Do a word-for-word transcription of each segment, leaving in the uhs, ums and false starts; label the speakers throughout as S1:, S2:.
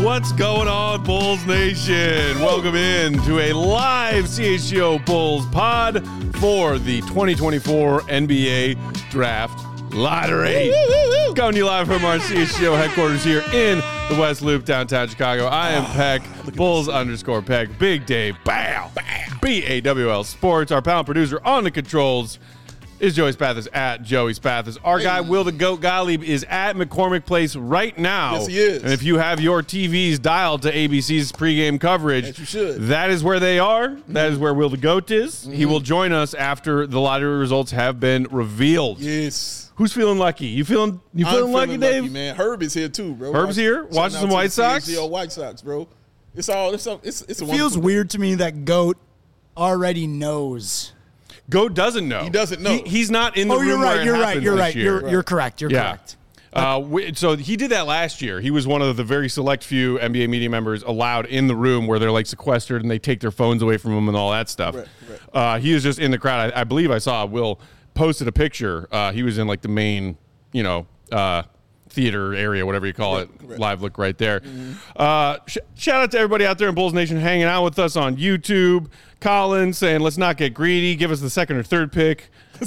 S1: What's going on, Bulls Nation? Welcome in to a live C H G O Bulls pod for the twenty twenty-four N B A Draft Lottery. Coming to you live from our C H G O headquarters here in the West Loop, downtown Chicago. I am Peck, Bulls underscore Peck, Big Dave, bow, B A W L Sports. Our panel producer on the controls is Joey Spathis at Joey Spathis. Our hey. guy, Will the Goat Gottlieb, is at McCormick Place right now.
S2: Yes, he is.
S1: And if you have your T Vs dialed to A B C's pregame coverage,
S2: yes, you should.
S1: That is where they are. Mm-hmm. That is where Will the Goat is. Mm-hmm. He will join us after the lottery results have been revealed.
S2: Yes.
S1: Who's feeling lucky? You feeling you feeling,
S2: feeling
S1: lucky, Dave?
S2: Lucky, man. Herb is here too, bro.
S1: Herb's here, watching some White Sox.
S2: C H G O White Sox, bro. It's all. It's. It's. it's a
S3: it feels weird to me that Goat already knows.
S1: Goat doesn't know.
S2: He doesn't know.
S1: He, he's not in the
S3: oh,
S1: room.
S3: You're right.
S1: Where it
S3: you're right. You're right.
S1: year.
S3: You're you're correct. You're
S1: yeah.
S3: correct.
S1: Uh, we, so he did that last year. He was one of the very select few N B A media members allowed in the room where they're like sequestered and they take their phones away from them and all that stuff.
S2: Right, right.
S1: Uh, he was just in the crowd. I, I believe I saw Will posted a picture. Uh, he was in like the main, you know, uh, theater area, whatever you call right, it. Right. Live look right there. Mm-hmm. Uh, sh- shout out to everybody out there in Bulls Nation hanging out with us on YouTube. Colin saying, let's not get greedy. Give us the second or third pick.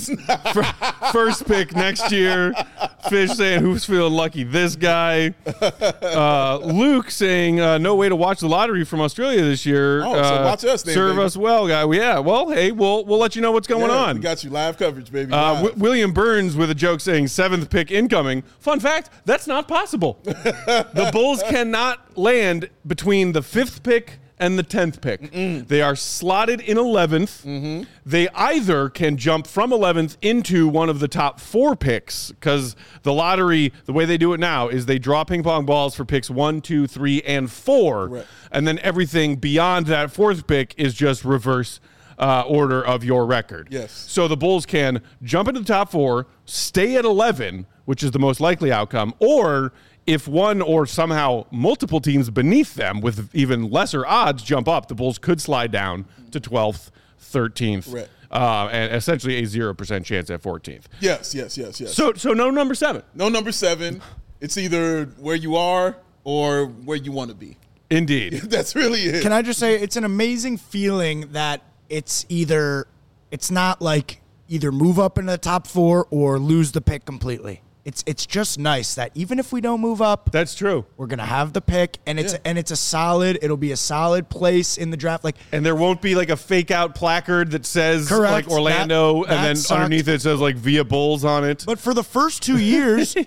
S1: First pick next year. Fish saying, who's feeling lucky? This guy. Uh, Luke saying, uh, no way to watch the lottery from Australia this year.
S2: Oh,
S1: uh,
S2: so watch us, then,
S1: serve
S2: baby.
S1: us well, guy. Well, yeah. Well, hey, we'll we'll let you know what's going
S2: yeah,
S1: on.
S2: We got you live coverage, baby.
S1: Uh, w- William Burns with a joke saying seventh pick incoming. Fun fact: that's not possible. The Bulls cannot land between the fifth pick and the tenth pick. Mm-mm. They are slotted in eleventh. Mm-hmm. They either can jump from eleventh into one of the top four picks, because the lottery, the way they do it now, is they draw ping pong balls for picks one, two, three, and four. Right. And then everything beyond that fourth pick is just reverse uh, order of your record.
S2: Yes.
S1: So the Bulls can jump into the top four, stay at eleven, which is the most likely outcome, or if one or somehow multiple teams beneath them with even lesser odds jump up, the Bulls could slide down to twelfth, thirteenth,
S2: right.
S1: uh, and essentially a zero percent chance at fourteenth.
S2: Yes, yes, yes, yes.
S1: So so no number seven.
S2: No number seven. It's either where you are or where you want to be.
S1: Indeed.
S2: That's really it.
S3: Can I just say, it's an amazing feeling that it's either, it's not like either move up into the top four or lose the pick completely. It's it's just nice that even if we don't move up,
S1: that's true.
S3: We're gonna have the pick, and it's
S2: yeah.
S3: and it's a solid. It'll be a solid place in the draft. Like,
S1: and there won't be like a fake out placard that says
S3: correct,
S1: like Orlando,
S3: that, that
S1: and then
S3: sucked.
S1: underneath it says like Via Bulls on it.
S3: But for the first two years,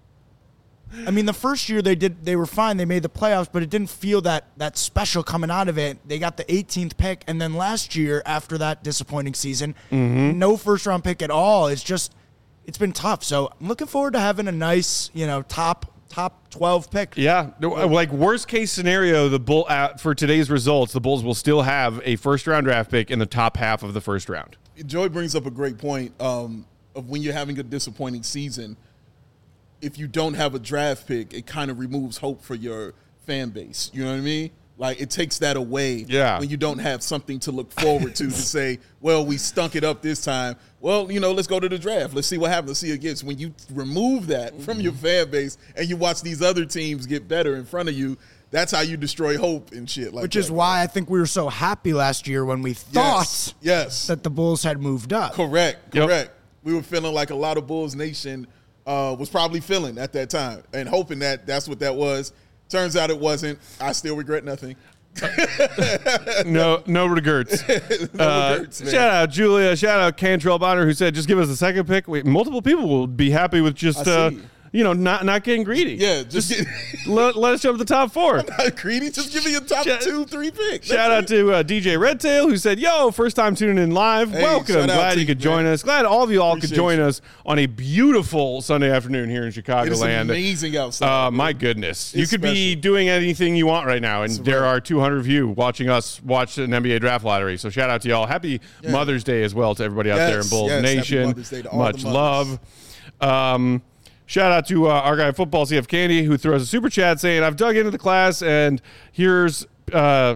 S3: I mean, the first year they did they were fine. They made the playoffs, but it didn't feel that that special coming out of it. They got the eighteenth pick, and then last year after that disappointing season, mm-hmm. no first round pick at all. It's just. It's been tough, so I'm looking forward to having a nice, you know, top top twelve pick.
S1: Yeah, like worst case scenario, the Bull uh, for today's results, the Bulls will still have a first round draft pick in the top half of the first round.
S2: Joey brings up a great point um, of when you're having a disappointing season. If you don't have a draft pick, it kind of removes hope for your fan base. You know what I mean? Like, it takes that away
S1: yeah.
S2: when you don't have something to look forward to to say, well, we stunk it up this time. Well, you know, let's go to the draft. Let's see what happens. Let's see it gets. When you remove that from your fan base and you watch these other teams get better in front of you, that's how you destroy hope and shit like
S3: Which
S2: that.
S3: is why I think we were so happy last year when we thought
S2: yes. Yes.
S3: that the Bulls had moved up.
S2: Correct.
S1: Yep.
S2: Correct. We were feeling like a lot of Bulls Nation uh, was probably feeling at that time and hoping that that's what that was. Turns out it wasn't. I still regret nothing.
S1: no, no regrets.
S2: no
S1: uh,
S2: regrets man.
S1: Shout out Julia. Shout out Cantrell Bonner, who said, "Just give us a second pick." Wait, multiple people will be happy with just, uh, you know, not not getting greedy.
S2: Yeah, just, just
S1: get, let, let us jump to the top four.
S2: I'm not greedy. Just give me a top shout, two, three picks.
S1: Shout out to uh, D J Redtail, who said, "Yo, first time tuning in live.
S2: Hey,
S1: Welcome. Glad you could
S2: you,
S1: join
S2: man.
S1: us. Glad all of you all
S2: Appreciate
S1: could join
S2: you.
S1: us on a beautiful Sunday afternoon here in Chicagoland.
S2: It is amazing outside.
S1: Uh, my goodness,
S2: it's
S1: you could
S2: special.
S1: be doing anything you want right now, and
S2: It's
S1: there
S2: right.
S1: are two hundred of you watching us watch an N B A draft lottery. So shout out to y'all. Happy
S2: yeah.
S1: Mother's Day as well to everybody out
S2: yes,
S1: there in Bulls
S2: yes.
S1: Nation. Much
S2: the
S1: love. Um, Shout out to uh, our guy Football C F Candy, who threw us a super chat saying, "I've dug into the class and here's uh,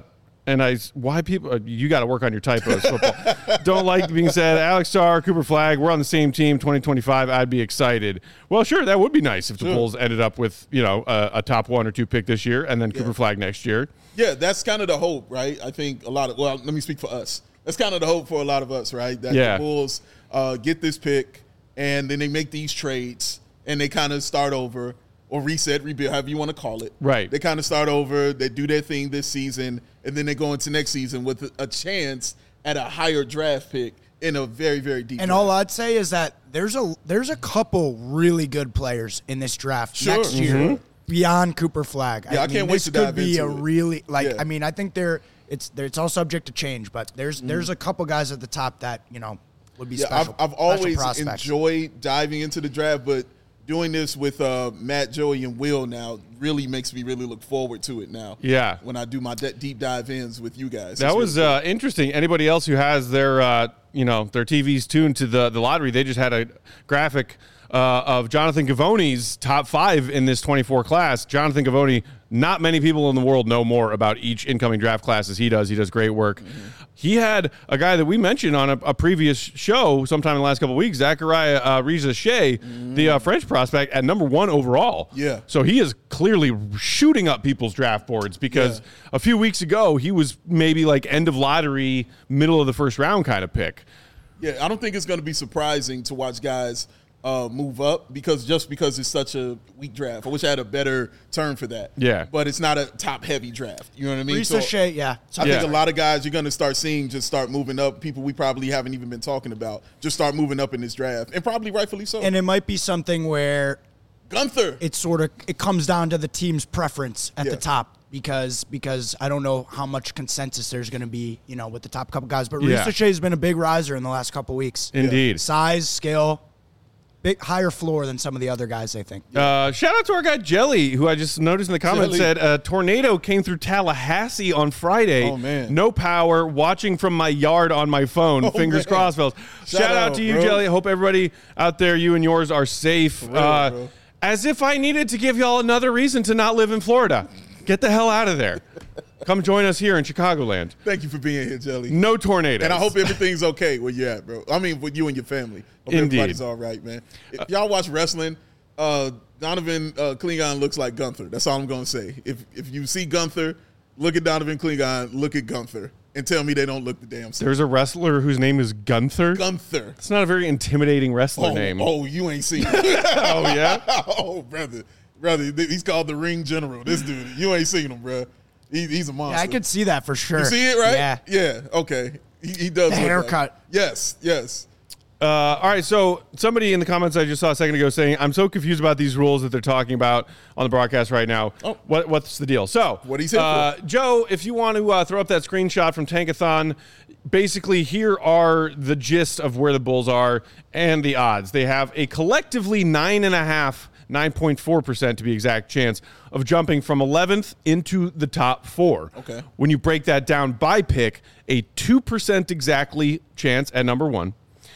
S1: and I why people uh, you got to work on your typos. Football don't like being said. Alex Starr, Cooper Flagg, we're on the same team. twenty twenty-five, I'd be excited. Well, sure, that would be nice if the
S2: Sure.
S1: Bulls ended up with you know a, a top one or two pick this year, and then Cooper Flagg next year.
S2: Yeah, that's kind of the hope, right? I think a lot of, well, let me speak for us. That's kind of the hope for a lot of us, right? That
S1: Yeah.
S2: the Bulls uh, get this pick, and then they make these trades, and they kind of start over, or reset, rebuild, however you want to call it.
S1: Right.
S2: They kind of start over, they do their thing this season, and then they go into next season with a, a chance at a higher draft pick in a very, very deep
S3: And
S2: draft.
S3: all I'd say is that there's a there's a couple really good players in this draft
S2: Sure.
S3: next year
S1: Mm-hmm.
S3: beyond Cooper Flagg.
S2: Yeah, I can't wait
S3: this
S2: to
S3: could
S2: dive
S3: be
S2: into
S3: a
S2: it.
S3: really like.
S2: Yeah.
S3: I mean, I think they're it's they're, it's all subject to change, but there's
S2: Mm-hmm.
S3: there's a couple guys at the top that you know would be
S2: Yeah,
S3: special.
S2: I've, I've
S3: special
S2: always
S3: prospects.
S2: enjoyed diving into the draft, but doing this with uh, Matt, Joey, and Will now really makes me really look forward to it now.
S1: Yeah.
S2: When I do my de- deep dive ins with you guys.
S1: That
S2: It's
S1: was
S2: really
S1: uh, interesting. Anybody else who has their, uh, you know, their T Vs tuned to the, the lottery, they just had a graphic uh, of Jonathan Givony's top five in this twenty-four class. Jonathan Givony, not many people in the world know more about each incoming draft class as he does. He does great work. Mm-hmm. He had a guy that we mentioned on a, a previous show sometime in the last couple of weeks, Zachariah uh, Riza-Shea, mm-hmm. the uh, French prospect, at number one overall.
S2: Yeah.
S1: So he is clearly shooting up people's draft boards because
S2: Yeah.
S1: a few weeks ago he was maybe like end of lottery, middle of the first round kind of pick.
S2: Yeah, I don't think it's going to be surprising to watch guys uh, move up because just because it's such a weak draft. I wish I had a better term for that.
S1: Yeah.
S2: But it's not a top-heavy draft. You know what I mean?
S3: Risa Shea, yeah.
S2: I
S1: Yeah.
S2: think a lot of guys you're going to start seeing just start moving up. People we probably haven't even been talking about just start moving up in this draft, and probably rightfully so.
S3: And it might be something where
S2: Gunther.
S3: it sort of it comes down to the team's preference at
S2: Yeah.
S3: the top because because I don't know how much consensus there's going to be, you know, with the top couple guys. But
S1: Yeah.
S3: Risa Shea's been a big riser in the last couple weeks.
S1: Indeed.
S3: Size, skill, big higher floor than some of the other guys, I think.
S1: Uh, shout out to our guy Jelly, who I just noticed in the comments
S2: Jelly.
S1: said a tornado came through Tallahassee on Friday.
S2: Oh, man.
S1: No power, watching from my yard on my phone.
S2: Oh,
S1: Fingers
S2: man.
S1: crossed, fellas. Shout,
S2: Shout
S1: out,
S2: out,
S1: to you,
S2: bro.
S1: Jelly. Hope everybody out there, you and yours, are safe.
S2: real,
S1: uh,
S2: bro.
S1: as if I needed to give y'all another reason to not live in Florida. Get the hell out of there. Come join us here in Chicagoland.
S2: Thank you for being here, Jelly.
S1: No tornadoes.
S2: And I hope everything's okay where you're at, bro. I mean, with you and your family. Hope
S1: Indeed.
S2: everybody's all right, man. If y'all watch wrestling, uh, Donovan uh, Klingon looks like Gunther. That's all I'm going to say. If if you see Gunther, look at Donovan Klingon, look at Gunther, and tell me they don't look the damn same.
S1: There's a wrestler whose name is Gunther.
S2: Gunther.
S1: It's not a very intimidating wrestler
S2: Oh,
S1: name.
S2: oh, you ain't seen him.
S1: Oh, yeah?
S2: Oh, brother. Brother, th- he's called the Ring General. This dude, you ain't seen him, bro. He, he's a monster.
S3: Yeah, I could see that for sure.
S2: You see it, right?
S3: Yeah.
S2: Yeah, okay. He, he does
S3: The
S2: look
S3: haircut.
S2: Like, yes, yes.
S1: Uh, all right, so somebody in the comments I just saw a second ago saying, I'm so confused about these rules that they're talking about on the broadcast right now.
S2: Oh.
S1: What, what's the deal? So,
S2: What he's here
S1: uh, Joe, if you want to uh, throw up that screenshot from Tankathon, basically here are the gist of where the Bulls are and the odds. They have a collectively nine and a half, nine point four percent to be exact, chance of jumping from eleventh into the top four.
S2: Okay.
S1: When you break that down by pick, a two percent exactly chance at number one,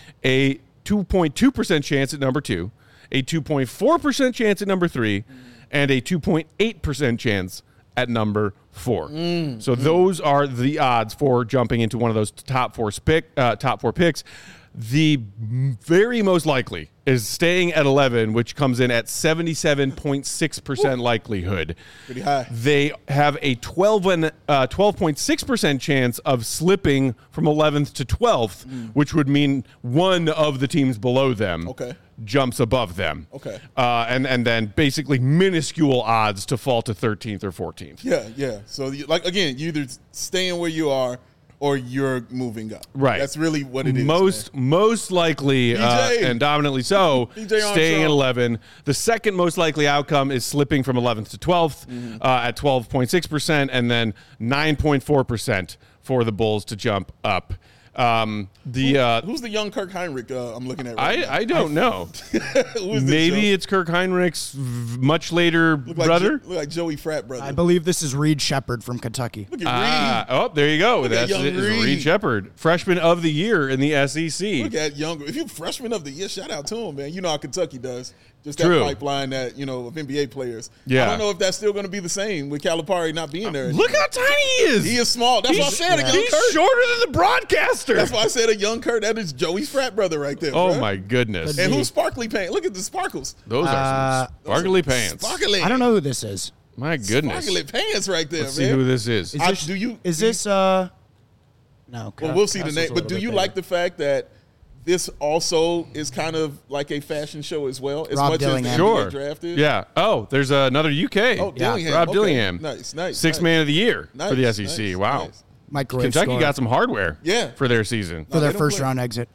S1: a two point two percent chance at number two, a two point four percent chance at number three, and a two point eight percent chance at number four.
S2: Mm.
S1: So those are the odds for jumping into one of those top four pick, uh, top four picks. The very most likely is staying at eleven, which comes in at seventy-seven point six percent likelihood.
S2: Pretty high.
S1: They have a twelve and uh, twelve point six percent chance of slipping from eleventh to twelfth,
S2: Mm.
S1: which would mean one of the teams below them
S2: Okay.
S1: jumps above them.
S2: Okay.
S1: Uh, and, and then basically minuscule odds to fall to thirteenth or fourteenth.
S2: Yeah, yeah. So, you, like, again, you either staying where you are or you're moving up.
S1: Right.
S2: That's really what it is.
S1: Most
S2: man.
S1: most likely uh,
S2: D J.
S1: and dominantly so,
S2: D J
S1: staying at
S2: Armstrong.
S1: eleven. The second most likely outcome is slipping from eleventh to twelfth
S2: Mm-hmm.
S1: uh, at twelve point six percent, and then nine point four percent for the Bulls to jump up. Um, the uh,
S2: Who's the young Kirk Heinrich uh, I'm looking at right now?
S1: I, I don't know.
S2: Who is this,
S1: Maybe
S2: Joe?
S1: it's Kirk Heinrich's v- much later
S2: Look like
S1: brother.
S2: Jo- look like Joey Frat brother.
S3: I believe this is Reed Shepard from Kentucky.
S2: Look at
S1: Ah, oh, there you go.
S2: at
S1: That's
S2: young
S1: it, is
S2: Reed.
S1: Reed Shepard, freshman of the year in the S E C.
S2: Reed. Look at younger. If you're freshman of the year, shout out to him, man. You know how Kentucky does. Just that
S1: True.
S2: pipeline that, you know, of N B A players.
S1: Yeah.
S2: I don't know if that's still going to be the same with Calipari not being there.
S1: Look how tiny he is.
S2: He is small. That's
S1: he's,
S2: what I said.
S1: yeah.
S2: A young
S1: He's
S2: Kurt.
S1: shorter than the broadcaster.
S2: That's why I said a young Kurt. That is Joey's frat brother right there.
S1: Oh,
S2: bro.
S1: my goodness.
S2: And who's sparkly pants? Look at the sparkles.
S1: Those are
S3: Uh,
S1: some sparkly pants.
S2: Sparkly.
S3: I don't know who this is.
S1: My goodness.
S2: Sparkly pants right there,
S1: Let's
S2: man.
S1: see who this is.
S3: Is
S2: I-
S3: this,
S2: do you-
S3: Is
S2: do you-
S3: this? Uh, no.
S2: Well, we'll see the name. But do you like the fact that this also is kind of like a fashion show as well, as
S3: Rob
S2: much
S3: Dillingham.
S2: as the
S1: Sure.
S2: N B A draft is?
S1: Yeah. Oh, there's another U K.
S2: Oh,
S3: Yeah.
S2: Dillingham.
S1: Rob
S2: Okay.
S1: Dillingham.
S2: Nice, nice.
S1: Sixth
S2: nice.
S1: man of the year
S2: Nice,
S1: for the S E C.
S2: nice,
S1: Wow.
S2: nice.
S3: Microwave
S1: Kentucky
S3: scorer
S1: got some hardware
S2: Yeah.
S1: for their season.
S3: for their
S2: they don't
S3: first
S2: play.
S3: round exit.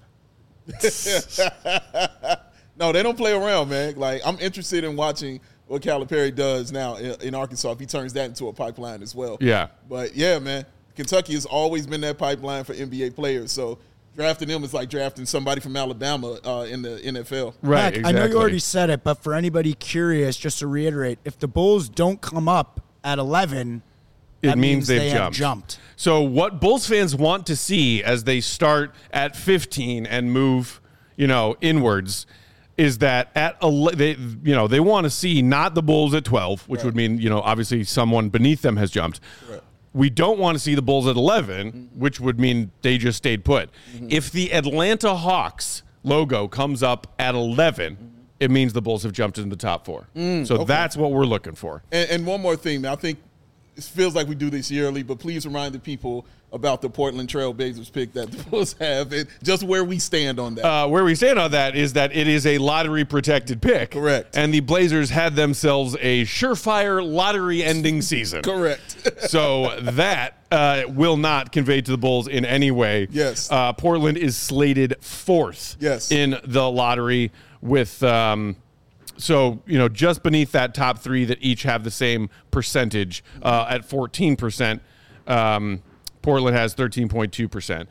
S2: No, they don't play around, man. Like, I'm interested in watching what Calipari does now in, in Arkansas if he turns that into a pipeline as well.
S1: Yeah.
S2: But yeah, man, Kentucky has always been that pipeline for N B A players. So drafting them is like drafting somebody from Alabama uh, in the N F L.
S1: Right.
S3: Mac,
S1: exactly.
S3: I know you already said it, but for anybody curious, just to reiterate, if the Bulls don't come up at eleven,
S1: It
S3: that
S1: means they've
S3: they have
S1: jumped.
S3: jumped.
S1: So what Bulls fans want to see as they start at fifteen and move, you know, inwards, is that at ele- they, you know, they want to see not the Bulls at twelve, which
S2: Right.
S1: would mean, you know, obviously someone beneath them has jumped.
S2: Right.
S1: We don't want to see the Bulls at eleven,
S2: Mm-hmm.
S1: which would mean they just stayed put. If the Atlanta Hawks logo comes up at eleven, it means the Bulls have jumped into the top four. so that's what we're looking for.
S2: And, and one more thing, man. I think it feels like we do this yearly, but please remind the people about the Portland Trail Blazers pick that the Bulls have and just where we stand on that.
S1: Uh, where we stand on that is that it is a lottery protected pick.
S2: Correct.
S1: And the Blazers had themselves a surefire lottery ending season.
S2: Correct.
S1: So that uh, will not convey to the Bulls in any way.
S2: Yes.
S1: Uh, Portland is slated fourth
S2: Yes.
S1: in the lottery with, um, so, you know, just beneath that top three that each have the same percentage uh, at fourteen percent. Um, Portland has thirteen point two percent.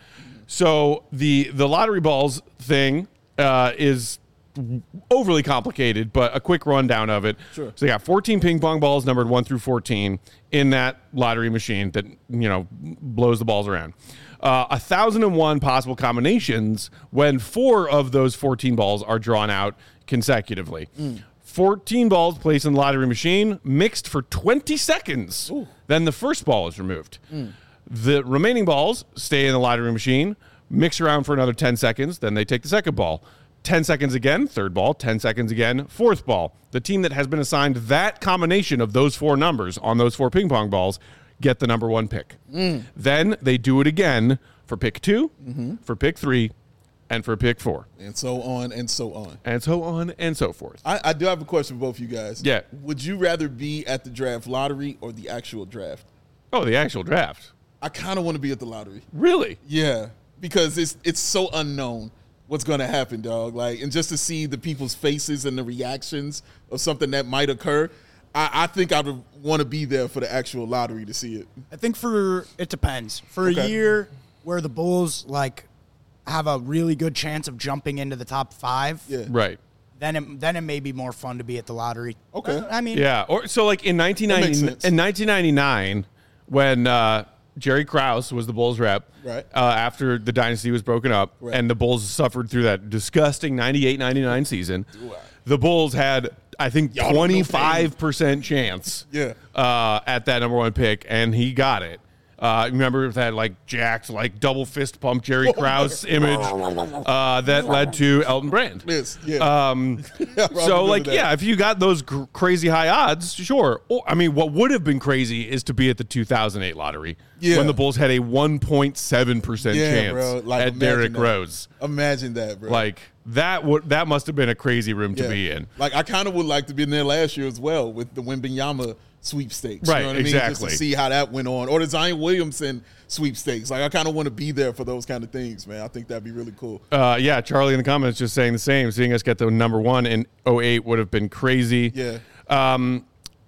S1: So the the lottery balls thing uh, is overly complicated, but a quick rundown of it.
S2: Sure.
S1: So they got fourteen ping pong balls numbered one through fourteen in that lottery machine that, you know, blows the balls around. Uh, one thousand one possible combinations when four of those fourteen balls are drawn out consecutively.
S2: Mm.
S1: fourteen balls placed in the lottery machine, mixed for twenty seconds.
S2: Ooh.
S1: Then the first ball is removed.
S2: Mm.
S1: The remaining balls stay in the lottery machine, mix around for another ten seconds, then they take the second ball. ten seconds again, third ball, ten seconds again, fourth ball. The team that has been assigned that combination of those four numbers on those four ping pong balls get the number one pick.
S2: Mm.
S1: Then they do it again for pick two,
S2: Mm-hmm.
S1: for pick three, and for pick four.
S2: And so on and so on.
S1: And so on and so forth.
S2: I, I do have a question for both of you guys.
S1: Yeah.
S2: Would you rather be at the draft lottery or the actual draft?
S1: Oh, the actual draft.
S2: I kind of want to be at the lottery.
S1: Really?
S2: Yeah, because it's it's so unknown what's going to happen, dog. Like, and just to see the people's faces and the reactions of something that might occur, I, I think I would want to be there for the actual lottery to see it.
S3: I think for it depends. For
S2: Okay.
S3: a year where the Bulls like have a really good chance of jumping into the top five,
S2: Yeah.
S1: Right.
S3: then it, then it may be more fun to be at the lottery.
S2: Okay.
S3: Uh, I mean,
S1: Yeah. Or so like in nineteen ninety
S2: That makes sense.
S1: in nineteen ninety-nine when uh, Jerry Krause was the Bulls rep,
S2: Right.
S1: uh, after the dynasty was broken up,
S2: Right.
S1: and the Bulls suffered through that disgusting ninety-eight ninety-nine season. The Bulls had, I think,
S2: Y'all don't know
S1: twenty-five percent chance
S2: Yeah.
S1: uh, at that number one pick, and he got it. Uh, remember that like jacked, like double fist pump Jerry Krause image uh, that led to Elton Brand.
S2: Yes. Yeah.
S1: Um,
S2: I
S1: so
S2: remember
S1: like,
S2: that.
S1: yeah, if you got those cr- crazy high odds, sure. Or, I mean, what would have been crazy is to be at the two thousand eight lottery
S2: Yeah.
S1: when the Bulls had a one point seven percent
S2: Yeah,
S1: chance
S2: bro. Like,
S1: at
S2: imagine
S1: Derrick
S2: that.
S1: Rose.
S2: Imagine that, bro.
S1: Like that would that must have been a crazy room to
S2: Yeah.
S1: be in.
S2: Like, I kind of would like to be in there last year as well with the Wembanyama sweepstakes.
S1: Right,
S2: You know what I mean?
S1: exactly.
S2: Just to see how that went on. Or the Zion Williamson sweepstakes. Like, I kind of want to be there for those kind of things, man. I think that'd be really cool.
S1: Uh, yeah, Charlie in the comments just saying the same. Seeing us get the number one in oh eight would have been crazy.
S2: Yeah.
S1: Um,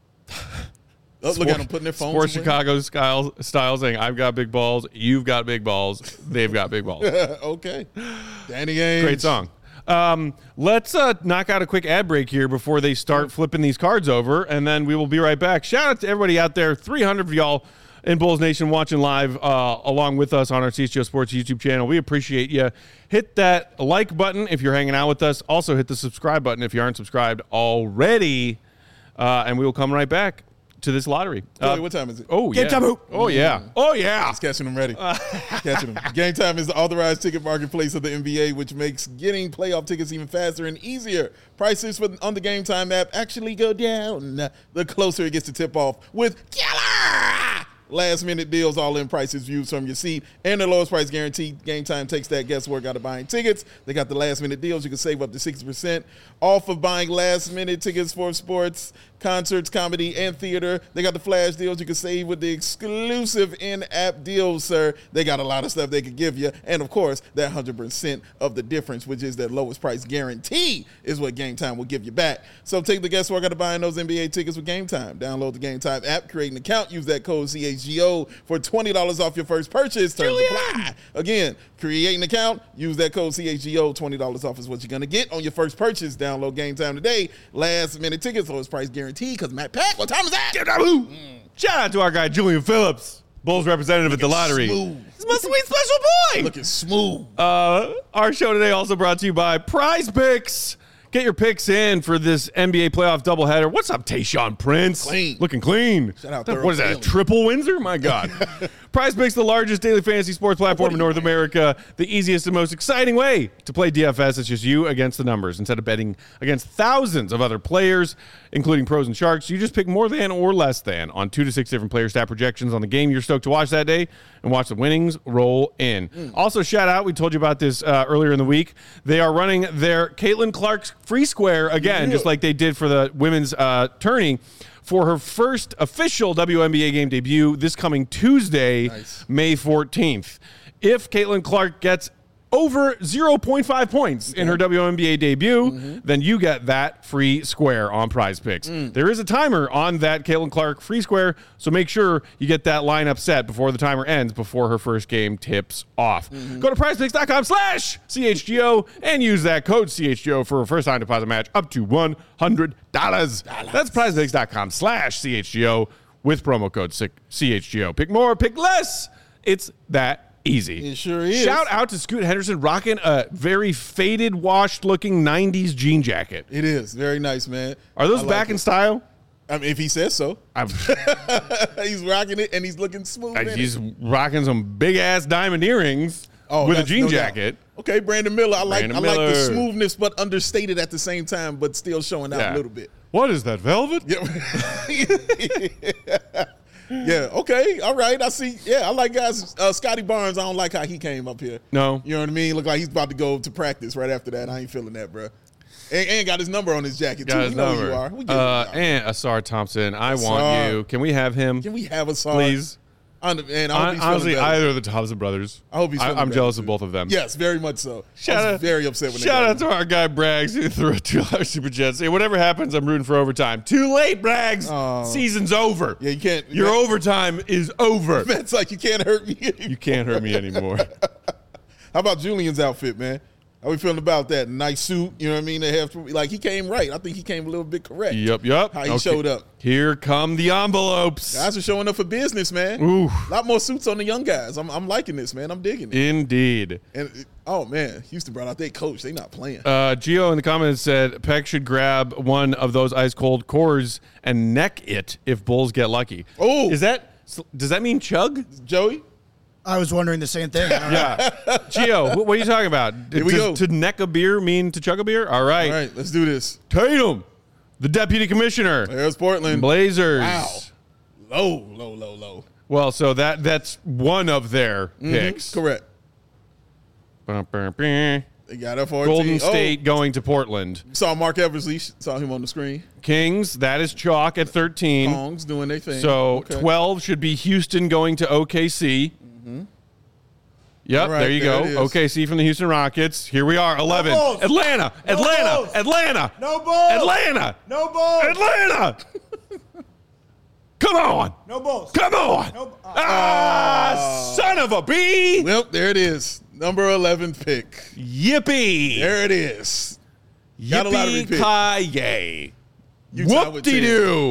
S2: Oh, look at them putting their phones
S1: Sports
S2: away.
S1: Chicago style, style saying, I've got big balls, you've got big balls, they've got big balls.
S2: Okay. Danny Ainge.
S1: Great song. Um, let's uh, knock out a quick ad break here before they start flipping these cards over, and then we will be right back. Shout out to everybody out there, three hundred of y'all in Bulls Nation watching live uh, along with us on our C H G O Sports YouTube channel. We appreciate you. Hit that like button if you're hanging out with us. Also, hit the subscribe button if you aren't subscribed already. Uh, and we will come right back to this lottery.
S2: Joey,
S1: Uh,
S2: what time is it?
S1: oh,
S3: Game
S1: yeah.
S3: time, hoop.
S1: Oh, yeah. Oh, yeah.
S2: It's catching them ready. catching them. Game Time is the authorized ticket marketplace of the N B A, which makes getting playoff tickets even faster and easier. Prices for, on the Game Time app actually go down the closer it gets to tip off with killer last-minute deals, all-in prices, views from your seat, and the lowest price guarantee. Game Time takes that guesswork out of buying tickets. They got the last-minute deals. You can save up to sixty percent off of buying last-minute tickets for sports, concerts, comedy, and theater. They got the flash deals. You can save with the exclusive in-app deals, sir. They got a lot of stuff they could give you. And, of course, that one hundred percent of the difference, which is that lowest price guarantee, is what Game Time will give you back. So take the guesswork out of buying those N B A tickets with Game Time. Download the Game Time app, create an account, use that code C H G O for twenty dollars off your first purchase. Terms apply. Again, create an account, use that code C H G O, twenty dollars off is what you're going to get on your first purchase. Download Game Time today. Last minute tickets, lowest price guarantee, because Matt Pack, what time is that?
S1: Mm. Shout out to our guy, Julian Phillips, Bulls representative at the lottery.
S2: Smooth.
S1: He's my sweet special boy.
S2: Looking smooth.
S1: Uh, our show today also brought to you by Prize Picks. Get your picks in for this N B A playoff doubleheader. What's up, Tayshaun Prince?
S2: Clean.
S1: Looking clean.
S2: Shout out
S1: What is that, a
S2: Thurl
S1: triple Windsor? My God. Prize Picks, the largest daily fantasy sports platform in North America. The easiest and most exciting way to play D F S. It's just you against the numbers. Instead of betting against thousands of other players, including pros and sharks, you just pick more than or less than on two to six different player stat projections on the game you're stoked to watch that day and watch the winnings roll in. Mm. Also, shout out, we told you about this uh, earlier in the week. They are running their Caitlin Clark's free square again, yeah. just like they did for the women's uh, tourney, for her first official W N B A game debut this coming Tuesday, nice. May fourteenth. If Caitlin Clark gets over zero point five points okay. in her W N B A debut, mm-hmm. then you get that free square on Prize Picks. Mm. There is a timer on that Caitlin Clark free square, so make sure you get that lineup set before the timer ends, before her first game tips off. Mm-hmm. Go to prizepicks.com slash CHGO and use that code C H G O for a first-time deposit match up to one hundred dollars. That's prizepicks.com slash CHGO with promo code C H G O. Pick more, pick less. It's that easy.
S2: It sure is.
S1: Shout out to Scoot Henderson rocking a very faded, washed-looking nineties jean jacket.
S2: It is. Very nice, man.
S1: Are those
S2: like
S1: back
S2: it.
S1: in style?
S2: I mean, if he says so. He's rocking it, and he's looking smooth.
S1: Uh, he's it. rocking some big-ass diamond earrings oh, with a jean
S2: no
S1: jacket.
S2: Doubt. Okay, Brandon Miller. I like
S1: Brandon
S2: I
S1: Miller.
S2: like the smoothness, but understated at the same time, but still showing out
S1: yeah.
S2: a little bit.
S1: What is that, velvet?
S2: Yeah. Yeah, okay, all right, I see. Yeah, I like guys. Uh, Scotty Barnes, I don't like how he came up here.
S1: No.
S2: You know what I mean? Look like he's about to go to practice right after that. I ain't feeling that, bro. And, and got his number on his jacket,
S1: got
S2: too.
S1: His
S2: you know
S1: number.
S2: who you are. We get
S1: uh,
S2: you are.
S1: And Asar Thompson, I
S2: Asar.
S1: want you. Can we have him?
S2: Can we have Asar?
S1: Please.
S2: On the, man, I hope he's
S1: Honestly,
S2: feeling better.
S1: either of the Thompson brothers.
S2: I hope he's feeling
S1: I, I'm
S2: better,
S1: jealous
S2: too.
S1: of both of them.
S2: Yes, very much so.
S1: Shout
S2: I was
S1: out,
S2: very upset when they
S1: Shout
S2: got
S1: out to
S2: him.
S1: our guy Braggs who threw a two dollar super chat. Say, whatever happens, I'm rooting for overtime. Too late, Braggs.
S2: Oh.
S1: Season's over.
S2: Yeah, you can't.
S1: Your
S2: man,
S1: overtime is over.
S2: It's like you can't hurt me anymore.
S1: You can't hurt me anymore.
S2: How about Julian's outfit, man? How we feeling about that? Nice suit, you know what I mean? They have to, like, he came right. I think he came a little bit correct.
S1: Yep, yep.
S2: How he
S1: Okay.
S2: showed up.
S1: Here come the envelopes.
S2: Guys are showing up for business, man.
S1: Ooh.
S2: A lot more suits on the young guys. I'm, I'm liking this, man. I'm digging it.
S1: Indeed.
S2: And oh man, Houston brought out their coach. They not playing.
S1: Uh, Gio in the comments said Peck should grab one of those ice cold cores and neck it if Bulls get lucky.
S2: Oh.
S1: Is that, does that mean chug?
S2: Joey?
S3: I was wondering the same thing.
S1: Yeah. Gio, what, what are you talking about?
S2: Here we
S1: Does
S2: go.
S1: To neck a beer mean to chug a beer? All right.
S2: All right, let's do this.
S1: Tatum, the deputy commissioner.
S2: There's Portland.
S1: Blazers.
S2: Wow. Low, low, low, low.
S1: Well, so that that's one of their
S2: Mm-hmm.
S1: picks.
S2: Correct.
S1: Golden
S2: They got a fourteen.
S1: State going to Portland.
S2: Oh, saw Mark Eversley. Saw him on the screen.
S1: Kings, that is chalk at thirteen.
S2: Kongs doing their thing.
S1: So
S2: Okay.
S1: twelve should be Houston going to O K C. Mm-hmm. Yep,
S2: All right,
S1: there you
S2: there
S1: go.
S2: it is.
S1: O K C from the Houston Rockets. Here we are, eleven.
S3: Bulls.
S1: Atlanta,
S3: No
S1: Atlanta,
S3: Bulls.
S1: Atlanta.
S3: No Bulls.
S1: Atlanta.
S3: No balls.
S1: Atlanta. Come on.
S3: No balls.
S1: Come on.
S3: No- uh,
S1: ah, son of a bee.
S2: Well, there it is. Number eleventh pick.
S1: Yippee.
S2: There it is. Got a lottery pick.
S1: Yippee-ki-yay.
S2: Utah with ten.
S1: Whoop-de-doo.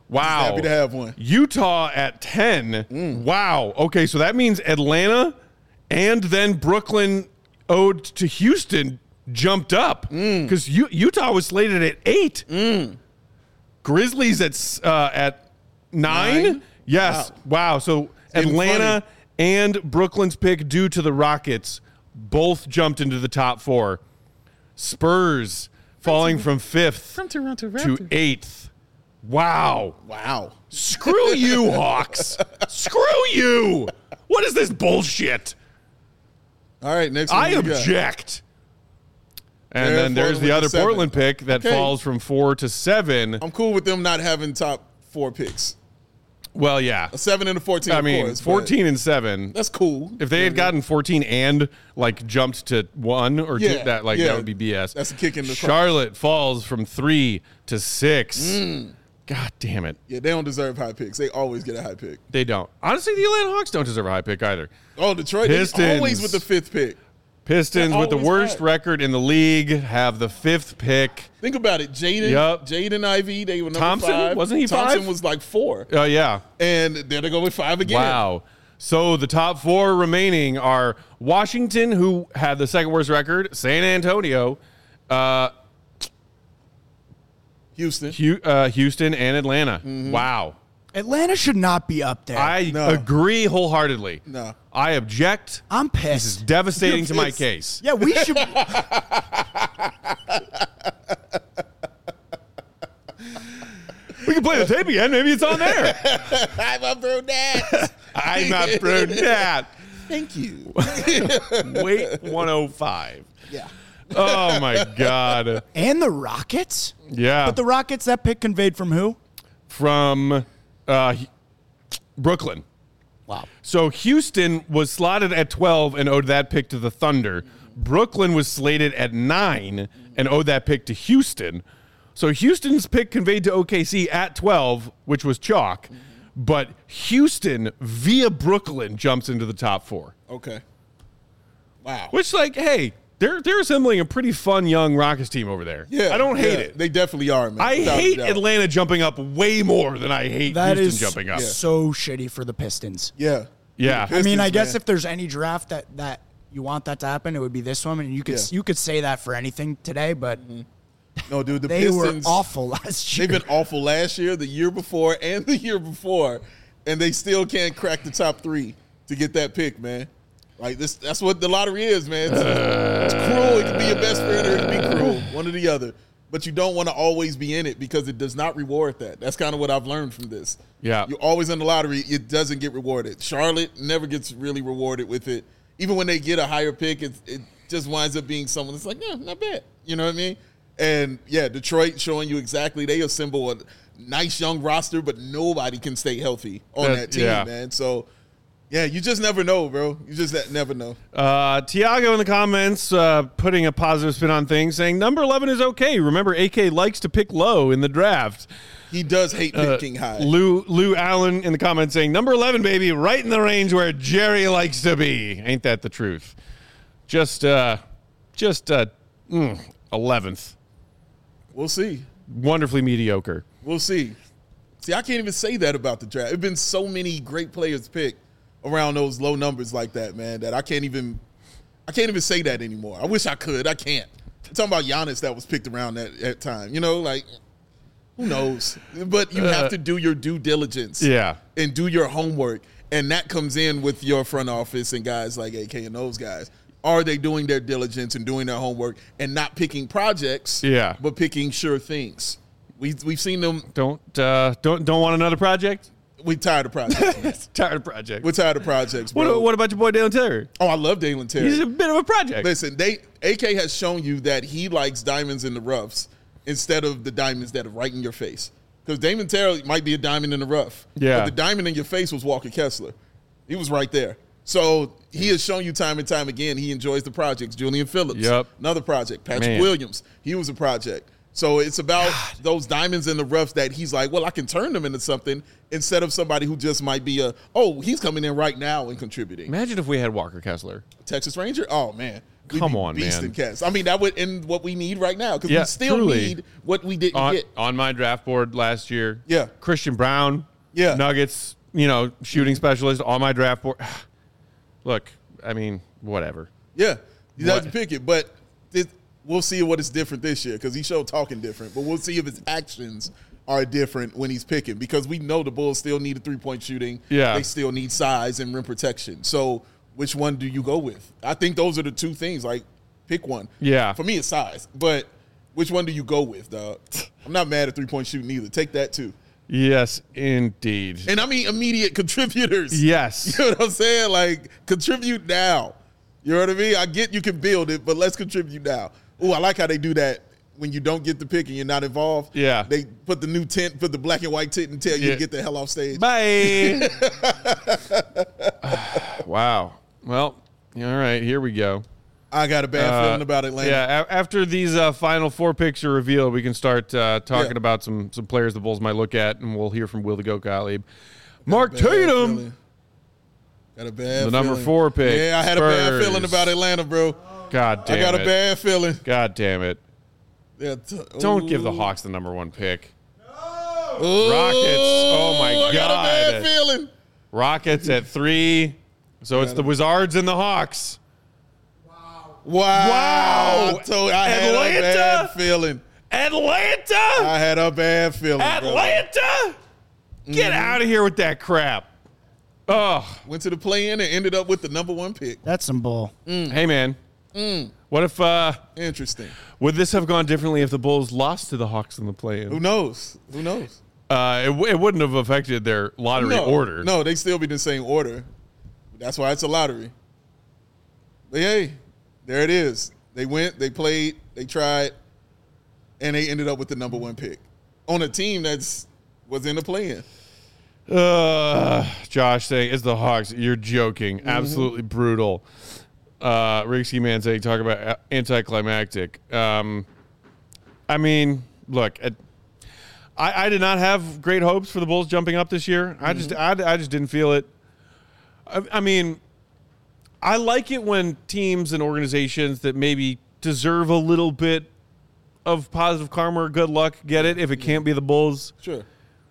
S1: Wow.
S2: Happy to have one.
S1: Utah at ten.
S2: Mm.
S1: Wow. Okay, so that means Atlanta and then Brooklyn owed to Houston jumped up because
S2: Mm.
S1: Utah was slated at eight. Grizzlies at s- uh, at nine.
S2: Nine?
S1: Yes. Wow. So
S2: getting
S1: Atlanta
S2: funny.
S1: and Brooklyn's pick due to the Rockets both jumped into the top four. Spurs falling from fifth
S2: From Toronto
S1: to eighth. Wow.
S2: Wow.
S1: Screw you, Hawks. Screw you. What is this bullshit?
S2: All right, next one.
S1: I
S2: what we got?
S1: object. And
S2: They're
S1: then there's
S2: falling
S1: the
S2: with
S1: other
S2: the seven.
S1: Portland pick that
S2: Okay.
S1: falls from four to seven.
S2: I'm cool with them not having top four picks.
S1: Well, yeah.
S2: A seven and a fourteen.
S1: I
S2: of
S1: mean,
S2: course, but
S1: fourteen and seven.
S2: That's cool.
S1: If they had gotten fourteen and like jumped to one or
S2: Yeah,
S1: two, that like
S2: yeah.
S1: that would be B S.
S2: That's a kick in the crotch.
S1: Charlotte falls from three to six.
S2: Mm.
S1: God damn it.
S2: Yeah, they don't deserve high picks. They always get a high pick.
S1: They don't. Honestly, the Atlanta Hawks don't deserve a high pick either.
S2: Oh, Detroit they
S1: Pistons.
S2: always with the fifth pick.
S1: Pistons
S2: They're
S1: with the
S2: always
S1: worst
S2: high.
S1: record in the league have the fifth pick.
S2: Think about it. Jaden,
S1: Yup.
S2: Jaden Ivey, they were number
S1: Thompson?
S2: five.
S1: Wasn't he
S2: Thompson
S1: five?
S2: was like four.
S1: Oh, yeah.
S2: And there they go with five again.
S1: Wow. So the top four remaining are Washington, who had the second worst record, San Antonio, uh,
S2: Houston.
S1: Hu- uh, Houston, and Atlanta.
S2: Mm-hmm.
S1: Wow.
S3: Atlanta should not be up there.
S1: I
S2: No.
S1: agree wholeheartedly.
S2: No.
S1: I object.
S3: I'm
S1: This is
S3: pissed.
S1: devastating
S2: You're
S1: to my
S2: pissed.
S1: case.
S3: Yeah, we should.
S1: We can play the tape again. Maybe it's on there.
S2: I'm a brunette.
S1: I'm not brunette.
S2: Thank you.
S1: Wait, one oh five.
S2: Yeah.
S1: Oh, my God.
S3: And the Rockets?
S1: Yeah.
S3: But the Rockets, that pick conveyed from who?
S1: From uh, Brooklyn.
S3: Wow.
S1: So Houston was slotted at twelve and owed that pick to the Thunder. Brooklyn was slated at nine and owed that pick to Houston. So Houston's pick conveyed to O K C at twelve, which was chalk. But Houston, via Brooklyn, jumps into the top four.
S2: Okay. Wow.
S1: Which, like, hey, they're they're assembling a pretty fun young Rockets team over there.
S2: Yeah.
S1: I don't hate
S2: yeah,
S1: it.
S2: They definitely are, man.
S1: I
S2: Without a
S1: hate
S2: doubt.
S1: Atlanta jumping up way more than I hate
S3: That
S1: Houston
S3: is
S1: jumping up.
S3: so shitty for the Pistons.
S2: Yeah.
S1: Yeah.
S3: I mean, I
S2: Pistons,
S3: guess
S2: man.
S3: if there's any draft that, that you want that to happen, it would be this one. And you could
S2: Yeah.
S3: you could say that for anything today, but
S2: No, dude, the
S3: they
S2: Pistons,
S3: were awful last year.
S2: they've been awful last year, the year before, and the year before, and they still can't crack the top three to get that pick, man. Like this, that's what the lottery is, man. It's, it's cruel. It can be your best friend or it can be cruel, one or the other. But you don't want to always be in it because it does not reward that. That's kind of what I've learned from this.
S1: Yeah.
S2: You're always in the lottery. It doesn't get rewarded. Charlotte never gets really rewarded with it. Even when they get a higher pick, it, it just winds up being someone that's like, yeah, not bad. You know what I mean? And, yeah, Detroit showing you exactly. They assemble a nice young roster, but nobody can stay healthy on
S1: That-
S2: that team,
S1: yeah.
S2: man. So, yeah, you just never know, bro. You just never know.
S1: Uh, Tiago in the comments uh, putting a positive spin on things, saying number eleven is okay. Remember, A K likes to pick low in the draft.
S2: He does hate
S1: Uh,
S2: picking high.
S1: Lou Lou Allen in the comments saying number eleven, baby, right in the range where Jerry likes to be. Ain't that the truth? Just, uh, just uh, mm, eleventh.
S2: We'll see.
S1: Wonderfully mediocre.
S2: We'll see. See, I can't even say that about the draft. There've been so many great players picked around those low numbers like that, man, that I can't even I can't even say that anymore. I wish I could. I can't. I'm talking about Giannis that was picked around that, that time. You know, like, who knows? But you have to do your due diligence.
S1: Yeah.
S2: And do your homework. And that comes in with your front office and guys like A K and those guys. Are they doing their diligence and doing their homework and not picking projects,
S1: Yeah.
S2: but picking sure things? We, we've seen them.
S1: Don't uh, don't don't want another project?
S2: We tired of projects. man.
S1: Tired of project.
S2: We're tired of projects, bro.
S1: What, what about your boy Dalen Terry?
S2: oh, I love Dalen Terry.
S1: He's a bit of a project.
S2: Listen, they A K has shown you that he likes diamonds in the roughs instead of the diamonds that are right in your face. Because Damon Terry might be a diamond in the rough.
S1: Yeah.
S2: But the diamond in your face was Walker Kessler. He was right there. So he has shown you time and time again he enjoys the projects. Julian Phillips,
S1: Yep.
S2: another project. Patrick
S1: Man.
S2: Williams, he was a project. So it's about God. those diamonds in the roughs that he's like, well, I can turn them into something instead of somebody who just might be a, oh, he's coming in right now and contributing.
S1: Imagine if we had Walker Kessler.
S2: Texas Ranger? Oh, man. We'd
S1: Come on, man.
S2: Cats. I mean, that would end what we need right now because
S1: yeah,
S2: we still
S1: truly.
S2: need what we didn't
S1: on,
S2: get.
S1: On my draft board last year,
S2: yeah.
S1: Christian Brown,
S2: yeah.
S1: Nuggets, you know, shooting specialist on my draft board. Look, I mean, whatever.
S2: Yeah, he doesn't pick it, but it, we'll see what is different this year because he showed talking different, but we'll see if his actions are different when he's picking because we know the Bulls still need a three-point shooting.
S1: Yeah.
S2: They still need size and rim protection. So which one do you go with? I think those are the two things. Like, pick one.
S1: Yeah.
S2: For me, it's size. But which one do you go with, dog? I'm not mad at three-point shooting either. Take that, too.
S1: Yes, indeed.
S2: And I mean immediate contributors.
S1: Yes.
S2: You know what I'm saying? Like, contribute now. You know what I mean? I get you can build it, but let's contribute now. Ooh, I like how they do that when you don't get the pick and you're not involved.
S1: Yeah.
S2: They put the new tent, put the black and white tent and tell you
S1: yeah.
S2: to get the hell off stage.
S1: Bye. Wow. Well, all right, here we go.
S2: I got a bad
S1: uh,
S2: feeling about Atlanta.
S1: Yeah, a- after these uh, final four picks are revealed, we can start uh, talking
S2: Yeah.
S1: about some some players the Bulls might look at, and we'll hear from Will the Goat Gottlieb. Mark
S2: Bad
S1: Tatum,
S2: feeling. Got a bad
S1: the number
S2: feeling.
S1: four pick.
S2: Yeah, I had
S1: Spurs.
S2: a bad feeling about Atlanta, bro.
S1: God damn
S2: I got
S1: it.
S2: a bad feeling.
S1: God damn it.
S2: Yeah, t-
S1: Don't
S2: ooh.
S1: give the Hawks the number one pick.
S2: Ooh,
S1: Rockets. Oh, my
S2: I got a
S1: God.
S2: bad feeling.
S1: Rockets at three. So it's the Wizards and the Hawks.
S2: Wow.
S1: Wow.
S2: I, told, I had
S1: Atlanta?
S2: a bad feeling.
S1: Atlanta!
S2: I had a bad feeling.
S1: Atlanta!
S2: brother.
S1: Get
S2: Mm-hmm.
S1: out of here with that crap. Oh,
S2: Went to the play-in and ended up with the number one pick.
S3: That's some bull.
S2: Mm.
S1: hey, man. What if, uh,
S2: Interesting.
S1: would this have gone differently if the Bulls lost to the Hawks in the play-in?
S2: Who knows? Who knows?
S1: Uh, it, w- it wouldn't have affected their lottery
S2: no,
S1: order.
S2: No, they still be the same order. That's why it's a lottery. But hey, there it is. They went, they played, they tried, and they ended up with the number one pick on a team that's was in the play-in.
S1: Uh, Josh saying, it's the Hawks. You're joking.
S2: Mm-hmm.
S1: Absolutely brutal. Uh, Rigsky Man saying, talk about a- anticlimactic. Um, I mean, look, at, I, I did not have great hopes for the Bulls jumping up this year. I just, I, I just didn't feel it. I, I mean, I like it when teams and organizations that maybe deserve a little bit of positive karma or good luck get it if it can't be the Bulls.
S2: Sure.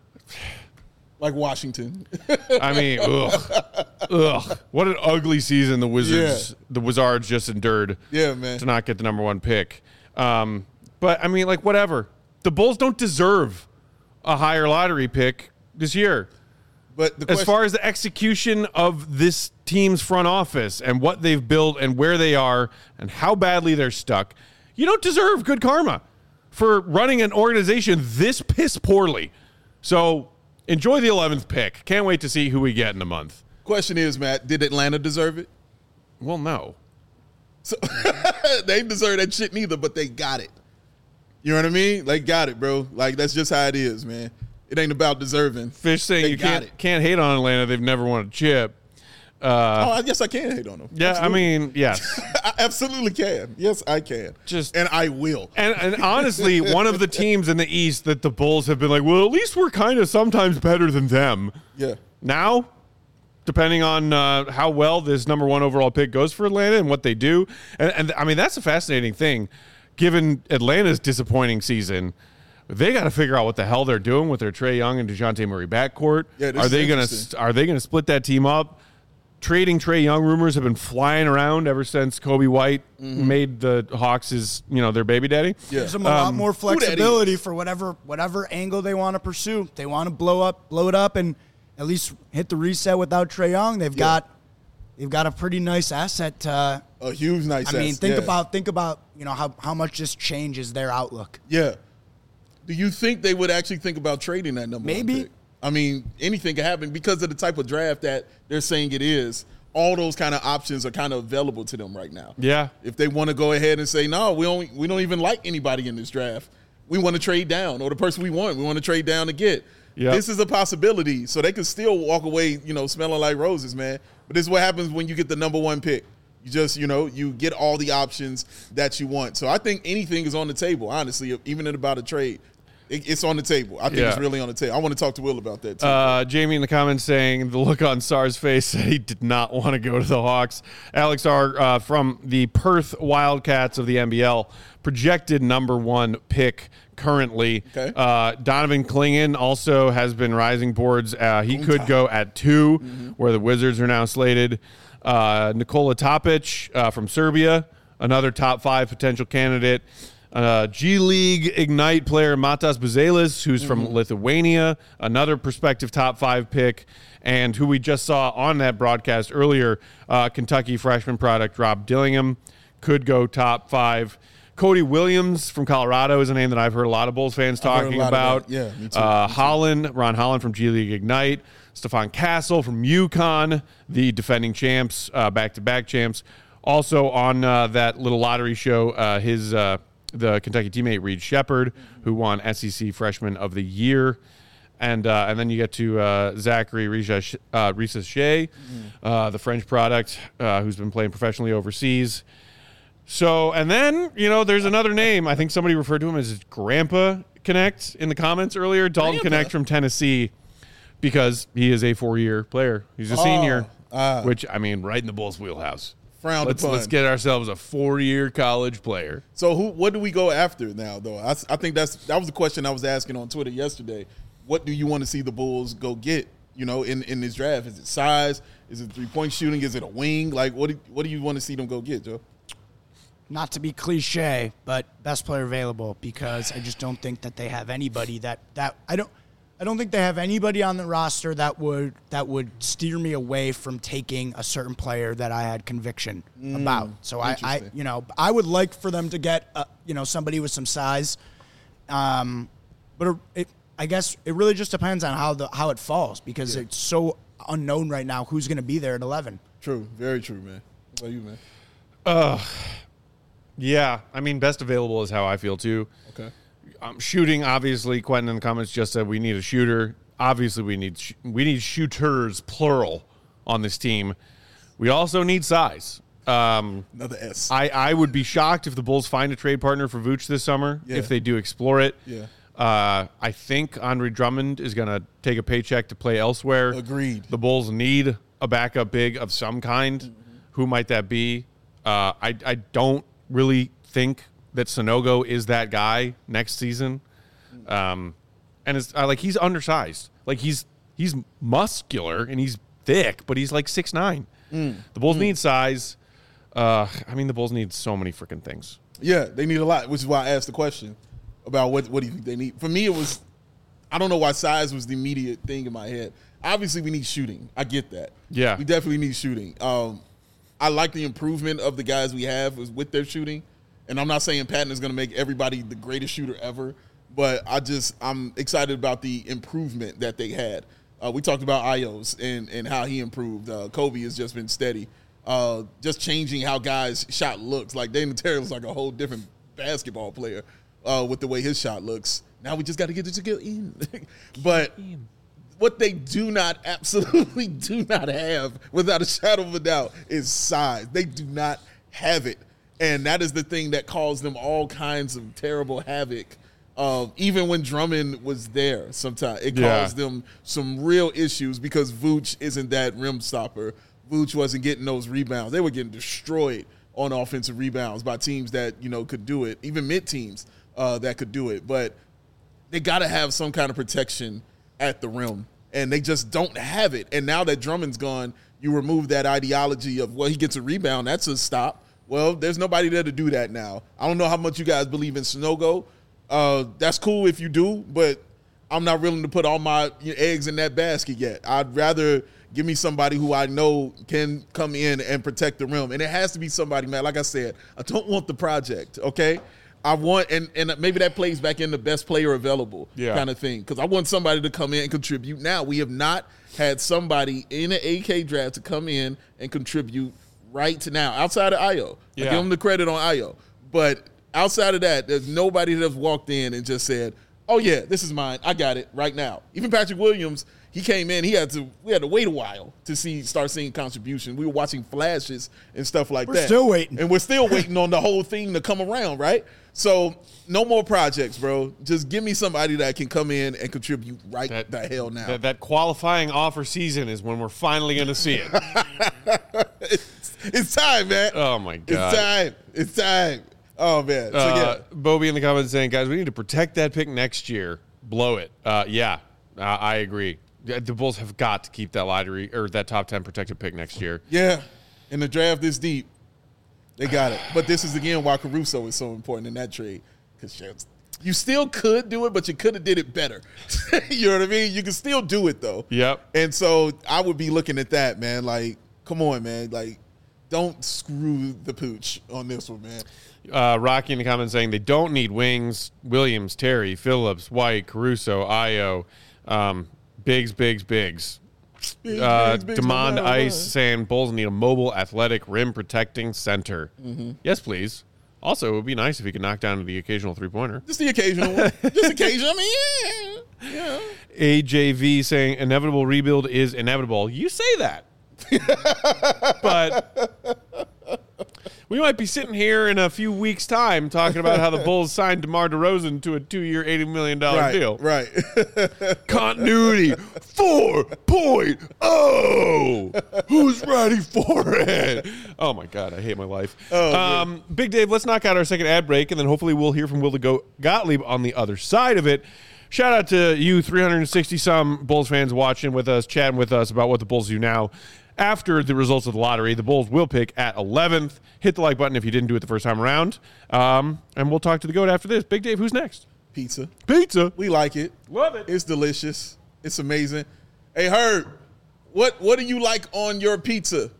S2: Like Washington.
S1: I mean, ugh, ugh! What an ugly season the Wizards,
S2: Yeah.
S1: the Wizards just endured.
S2: Yeah, man.
S1: To not get the number one pick. Um, but I mean, like, whatever. The Bulls don't deserve a higher lottery pick this year.
S2: But the
S1: As
S2: question,
S1: far as the execution of this team's front office and what they've built and where they are and how badly they're stuck, you don't deserve good karma for running an organization this piss poorly. So enjoy the eleventh pick. Can't wait to see who we get in a month.
S2: question is, Matt, did Atlanta deserve it?
S1: Well, no.
S2: So they didn't deserve that shit neither, but they got it. You know what I mean? They got it, bro. Like, that's just how it is, man. It ain't about deserving.
S1: Fish saying
S2: They
S1: you
S2: got
S1: can't
S2: it.
S1: can't hate on Atlanta. They've never won a chip.
S2: oh, I guess I can hate on them.
S1: Yeah,
S2: Absolutely.
S1: I mean, yes.
S2: I absolutely can. Yes, I can.
S1: Just-
S2: and I will.
S1: And, and honestly, one of the teams in the East that the Bulls have been like, well, at least we're kind of sometimes better than them.
S2: Yeah.
S1: Now, depending on uh, how well this number one overall pick goes for Atlanta and what they do. And, and I mean, that's a fascinating thing. Given Atlanta's disappointing season, they got to figure out what the hell they're doing with their Trae Young and DeJounte Murray backcourt.
S2: Yeah, this
S1: are
S2: is
S1: they going
S2: interesting.
S1: to are they going to split that team up? Trading Trae Young rumors have been flying around ever since Kobe White made the Hawks his, you know, their baby daddy.
S2: Yeah.
S3: Gives them a lot more
S2: that
S3: flexibility for whatever whatever angle they want to pursue. They want to blow up, blow it up, and at least hit the reset without Trae Young. They've
S2: Yeah.
S3: got they've got a pretty nice asset. Uh,
S2: A huge nice
S3: I mean,
S2: ass,
S3: think
S2: yeah.
S3: about think about you know how how much this changes their outlook.
S2: Yeah. Do you think they would actually think about trading that number
S3: Maybe.
S2: one pick? I mean, anything can happen because of the type of draft that they're saying it is. All those kind of options are kind of available to them right now.
S1: Yeah.
S2: If they want to go ahead and say, no, we don't, we don't even like anybody in this draft. We want to trade down, or the person we want, we want to trade down to get.
S1: Yep.
S2: This is a possibility. So they can still walk away, you know, smelling like roses, man. But this is what happens when you get the number one pick. You just, you know, you get all the options that you want. So I think anything is on the table, honestly, even in about a trade. It, it's on the table. I think
S1: Yeah.
S2: it's really on the table. I want to talk to Will about that, too.
S1: Uh, Jamie in the comments saying the look on Sarr's face said he did not want to go to the Hawks. Alex R. Uh, from the Perth Wildcats of the N B L, projected number one pick currently.
S2: Okay.
S1: Uh, Donovan Clingan also has been rising boards. Uh, he could go at two, mm-hmm. where the Wizards are now slated. Uh, Nikola Topic uh, from Serbia, another top five potential candidate. Uh, G League Ignite player Matas Buzelis, who's mm-hmm. from Lithuania, another prospective top five pick, and who we just saw on that broadcast earlier, uh, Kentucky freshman product Rob Dillingham, could go top five. Cody Williams from Colorado is a name that I've heard a lot of Bulls fans talking about.
S2: about. Yeah, me too.
S1: Uh,
S2: me too.
S1: Holland, Ron Holland from G League Ignite, Stephon Castle from UConn, the defending champs, uh, back-to-back champs. Also on uh, that little lottery show, uh, his uh, the Kentucky teammate Reed Shepard, who won S E C Freshman of the Year. And uh, and then you get to uh, Zachary Risa uh, Shea, uh, the French product, uh, who's been playing professionally overseas. So, and then, you know, there's another name. I think somebody referred to him as Grandpa Connect in the comments earlier. Dalton
S2: Grandpa.
S1: Connect from Tennessee, because he is a four-year player. He's a
S2: Oh,
S1: senior,
S2: uh,
S1: which, I mean, right in the Bulls' wheelhouse.
S2: Frowned
S1: Let's,
S2: upon.
S1: let's get ourselves a four-year college player.
S2: So who? What do we go after now, though? I, I think that's that was the question I was asking on Twitter yesterday. What do you want to see the Bulls go get, you know, in, in this draft? Is it size? Is it three-point shooting? Is it a wing? Like, what do, what do you want to see them go get, Joe?
S3: Not to be cliche, but best player available, because I just don't think that they have anybody that, that I don't I don't think they have anybody on the roster that would that would steer me away from taking a certain player that I had conviction
S2: Mm,
S3: about. So I, I
S2: interesting.
S3: you know I would like for them to get uh, you know somebody with some size, um, but it, I guess it really just depends on how the how it falls, because
S2: Yeah.
S3: it's so unknown right now who's going to be there at eleven.
S2: True, very true, man. What about you, man?
S1: Uh, yeah, I mean, best available is how I feel, too.
S2: Okay.
S1: Um, shooting, obviously, Quentin in the comments just said we need a shooter. Obviously, we need sh- we need shooters, plural, on this team. We also need size. Um,
S2: Another S.
S1: I, I would be shocked if the Bulls find a trade partner for Vooch this summer,
S2: Yeah.
S1: if they do explore it.
S2: Yeah.
S1: Uh, I think Andre Drummond is going to take a paycheck to play elsewhere.
S2: Agreed.
S1: The Bulls need a backup big of some kind.
S2: Mm-hmm.
S1: Who might that be? Uh, I, I don't really think that Sonogo is that guy next season. Um, and it's uh, like he's undersized. Like he's he's muscular and he's thick, but he's like six nine.
S2: Mm.
S1: The Bulls need size. Uh, I mean, the Bulls need so many freaking things.
S2: Yeah, they need a lot, which is why I asked the question about what what do you think they need. For me, it was I don't know why size was the immediate thing in my head. Obviously, we need shooting. I get that.
S1: Yeah.
S2: we definitely need shooting. Um, I like the improvement of the guys we have with their shooting. And I'm not saying Patton is going to make everybody the greatest shooter ever, but I just I'm excited about the improvement that they had. Uh, we talked about Ios and and how he improved. Uh, Kobe has just been steady, uh, just changing how guys' shot looks. Like Damian Terry was like a whole different basketball player uh, with the way his shot looks. Now we just got to get it to get in. But what they do not, absolutely do not have, without a shadow of a doubt, is size. They do not have it. And that is the thing that caused them all kinds of terrible havoc. Uh, even when Drummond was there sometimes, it
S1: Yeah.
S2: caused them some real issues because Vooch isn't that rim stopper. Vooch wasn't getting those rebounds. They were getting destroyed on offensive rebounds by teams that, you know, could do it, even mid teams uh, that could do it. But they got to have some kind of protection at the rim, and they just don't have it. And now that Drummond's gone, you remove that ideology of, well, he gets a rebound, that's a stop. Well, there's nobody there to do that now. I don't know how much you guys believe in Sonogo. Uh, that's cool if you do, but I'm not willing to put all my eggs in that basket yet. I'd rather give me somebody who I know can come in and protect the rim. And it has to be somebody, man, like I said, I don't want the project, okay? I want, and, and maybe that plays back in the best player available
S1: Yeah.
S2: kind of thing, because I want somebody to come in and contribute now. We have not had somebody in an A K draft to come in and contribute right now, outside of Ayo.
S1: Yeah.
S2: I give him the credit on Ayo. But outside of that, there's nobody that's walked in and just said, oh, yeah, this is mine. I got it right now. Even Patrick Williams, he came in. He had to. We had to wait a while to see start seeing contribution. We were watching flashes and stuff like
S3: We're
S2: that.
S3: still waiting.
S2: and we're still waiting on the whole thing to come around, right? So no more projects, bro. Just give me somebody that can come in and contribute right
S1: That-
S2: the hell now.
S1: That, that qualifying offer season is when we're finally going to see it.
S2: it's, it's time, man.
S1: Oh, my God.
S2: It's time. It's time. Oh man. So
S1: Uh,
S2: yeah.
S1: Bobby in the comments saying, guys, we need to protect that pick next year. Blow it. Uh, yeah, uh, I agree. The the Bulls have got to keep that lottery or that top ten protected pick next year.
S2: Yeah. In the draft this deep, they got it. But this is again why Caruso is so important in that trade. Because you still could do it, but you could have did it better. You know what I mean? You can still do it though.
S1: Yep.
S2: And so I would be looking at that, man. Like, come on, man. Like, don't screw the pooch on this one, man.
S1: Uh, Rocky in the comments saying they don't need wings. Williams, Terry, Phillips, White, Caruso, Io, um, Biggs, Biggs, Biggs.
S2: Big,
S1: Uh,
S2: big, big,
S1: Demond
S2: no matter
S1: Ice
S2: what.
S1: saying Bulls need a mobile, athletic, rim protecting center.
S2: Mm-hmm.
S1: Yes, please. Also, it would be nice if he could knock down the occasional three pointer.
S2: Just the occasional one. Just occasional. I mean, yeah. Yeah.
S1: A J V saying inevitable rebuild is inevitable. You say that. But we might be sitting here in a few weeks' time talking about how the Bulls signed DeMar DeRozan to a two-year, eighty million dollars
S2: Right,
S1: deal.
S2: right.
S1: Continuity four point oh. Who's ready for it? Oh, my God. I hate my life.
S2: Oh,
S1: um, Big Dave, let's knock out our second ad break, and then hopefully we'll hear from Will the Goat Gottlieb on the other side of it. Shout out to you three hundred sixty-some Bulls fans watching with us, chatting with us about what the Bulls do now. After the results of the lottery, the Bulls will pick at eleventh. Hit the like button if you didn't do it the first time around. Um, and we'll talk to the GOAT after this. Big Dave, who's next?
S2: Pizza.
S1: Pizza.
S2: We like it.
S1: Love it.
S2: It's delicious. It's amazing. Hey, Herb, what what do you like on your pizza?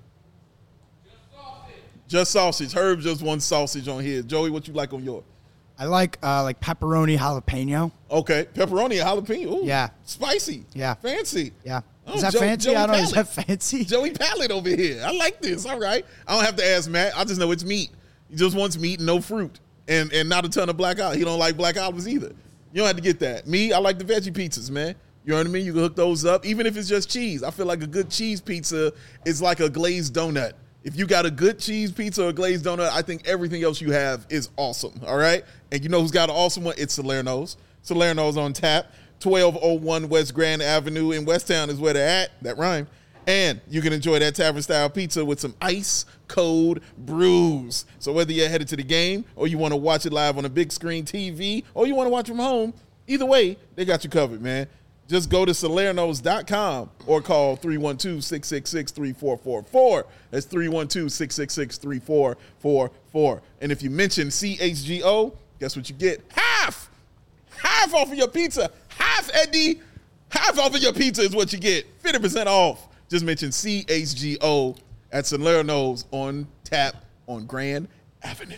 S2: Just sausage. Just sausage. Herb just one sausage on his. Joey, what you like on yours?
S3: I like uh, like pepperoni jalapeno.
S2: Okay, pepperoni and jalapeno. Ooh,
S3: Yeah.
S2: Spicy.
S3: Yeah.
S2: Fancy.
S3: Yeah.
S2: Oh,
S3: Is that
S2: Joe-
S3: fancy?
S2: Joey
S3: I don't know. Is
S2: Pallet.
S3: that fancy?
S2: Joey Pallet over here. I like this. All right. I don't have to ask Matt. I just know it's meat. He just wants meat and no fruit. And and not a ton of black olives. He don't like black olives either. You don't have to get that. Me, I like the veggie pizzas, man. You know what I mean? You can hook those up, even if it's just cheese. I feel like a good cheese pizza is like a glazed donut. If you got a good cheese pizza or a glazed donut, I think everything else you have is awesome, all right? And you know who's got an awesome one? It's Salerno's. Salerno's on tap. twelve oh one West Grand Avenue in Westtown is where they're at. That rhymed. And you can enjoy that tavern-style pizza with some ice cold brews. So whether you're headed to the game or you want to watch it live on a big screen T V or you want to watch from home, either way, they got you covered, man. Just go to Salernos dot com or call three one two, six six six, three four four four. That's three one two, six six six, three four four four. And if you mention C H G O, guess what you get? Half! Half off of your pizza. Half, Eddie. Half off of your pizza is what you get. fifty percent off. Just mention C H G O at Salerno's on tap on Grand Avenue.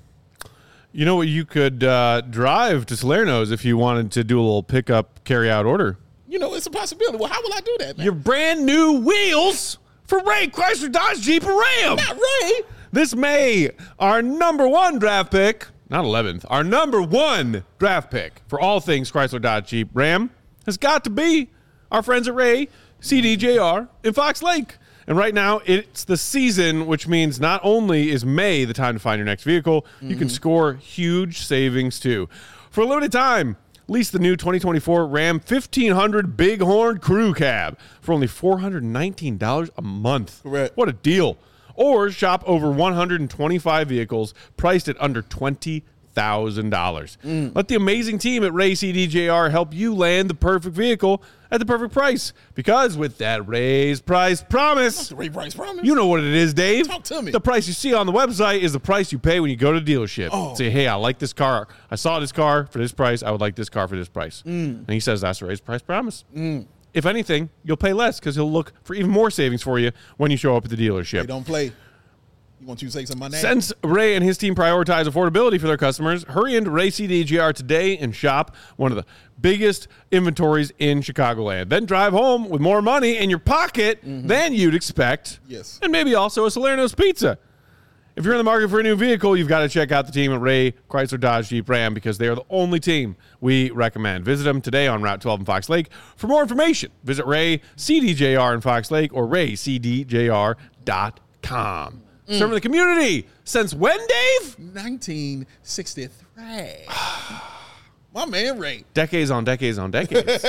S1: You know what? You could uh, drive to Salerno's if you wanted to do a little pickup, carry-out order.
S2: You know, it's a possibility. Well, how will I do that, man?
S1: Your brand new wheels for Ray Chrysler Dodge Jeep and Ram.
S2: Not Ray.
S1: This May, our number one draft pick, not eleventh, our number one draft pick for all things Chrysler Dodge Jeep Ram has got to be our friends at Ray C D J R in Fox Lake. And right now, it's the season, which means not only is May the time to find your next vehicle, mm-hmm. you can score huge savings too. For a limited time, lease the new twenty twenty-four Ram fifteen hundred Bighorn Crew Cab for only four hundred nineteen dollars a month.
S2: Correct.
S1: What a deal. Or shop over one hundred twenty-five vehicles priced at under twenty thousand dollars. Mm. Let the amazing team at Ray C D J R help you land the perfect vehicle at the perfect price. Because with that raised price promise,
S2: The Ray Price promise.
S1: you know what it is, Dave.
S2: Talk to me.
S1: The price you see on the website is the price you pay when you go to the dealership.
S2: Oh.
S1: Say, hey, I like this car. I saw this car for this price. I would like this car for this price. Mm. And he says that's the raised price promise. Mm. If anything, you'll pay less because he'll look for even more savings for you when you show up at the dealership.
S2: They don't play. You want you to say something about that?
S1: Since Ray and his team prioritize affordability for their customers, hurry into Ray C D J R today and shop one of the biggest inventories in Chicagoland. Then drive home with more money in your pocket mm-hmm. than you'd expect.
S2: Yes.
S1: And maybe also a Salerno's pizza. If you're in the market for a new vehicle, you've got to check out the team at Ray Chrysler Dodge Jeep Ram because they are the only team we recommend. Visit them today on Route twelve in Fox Lake. For more information, visit Ray C D J R in Fox Lake or ray c d j r dot com. Mm. Serving the community since when, Dave?
S2: nineteen sixty-three. My man Ray.
S1: Decades on decades on decades.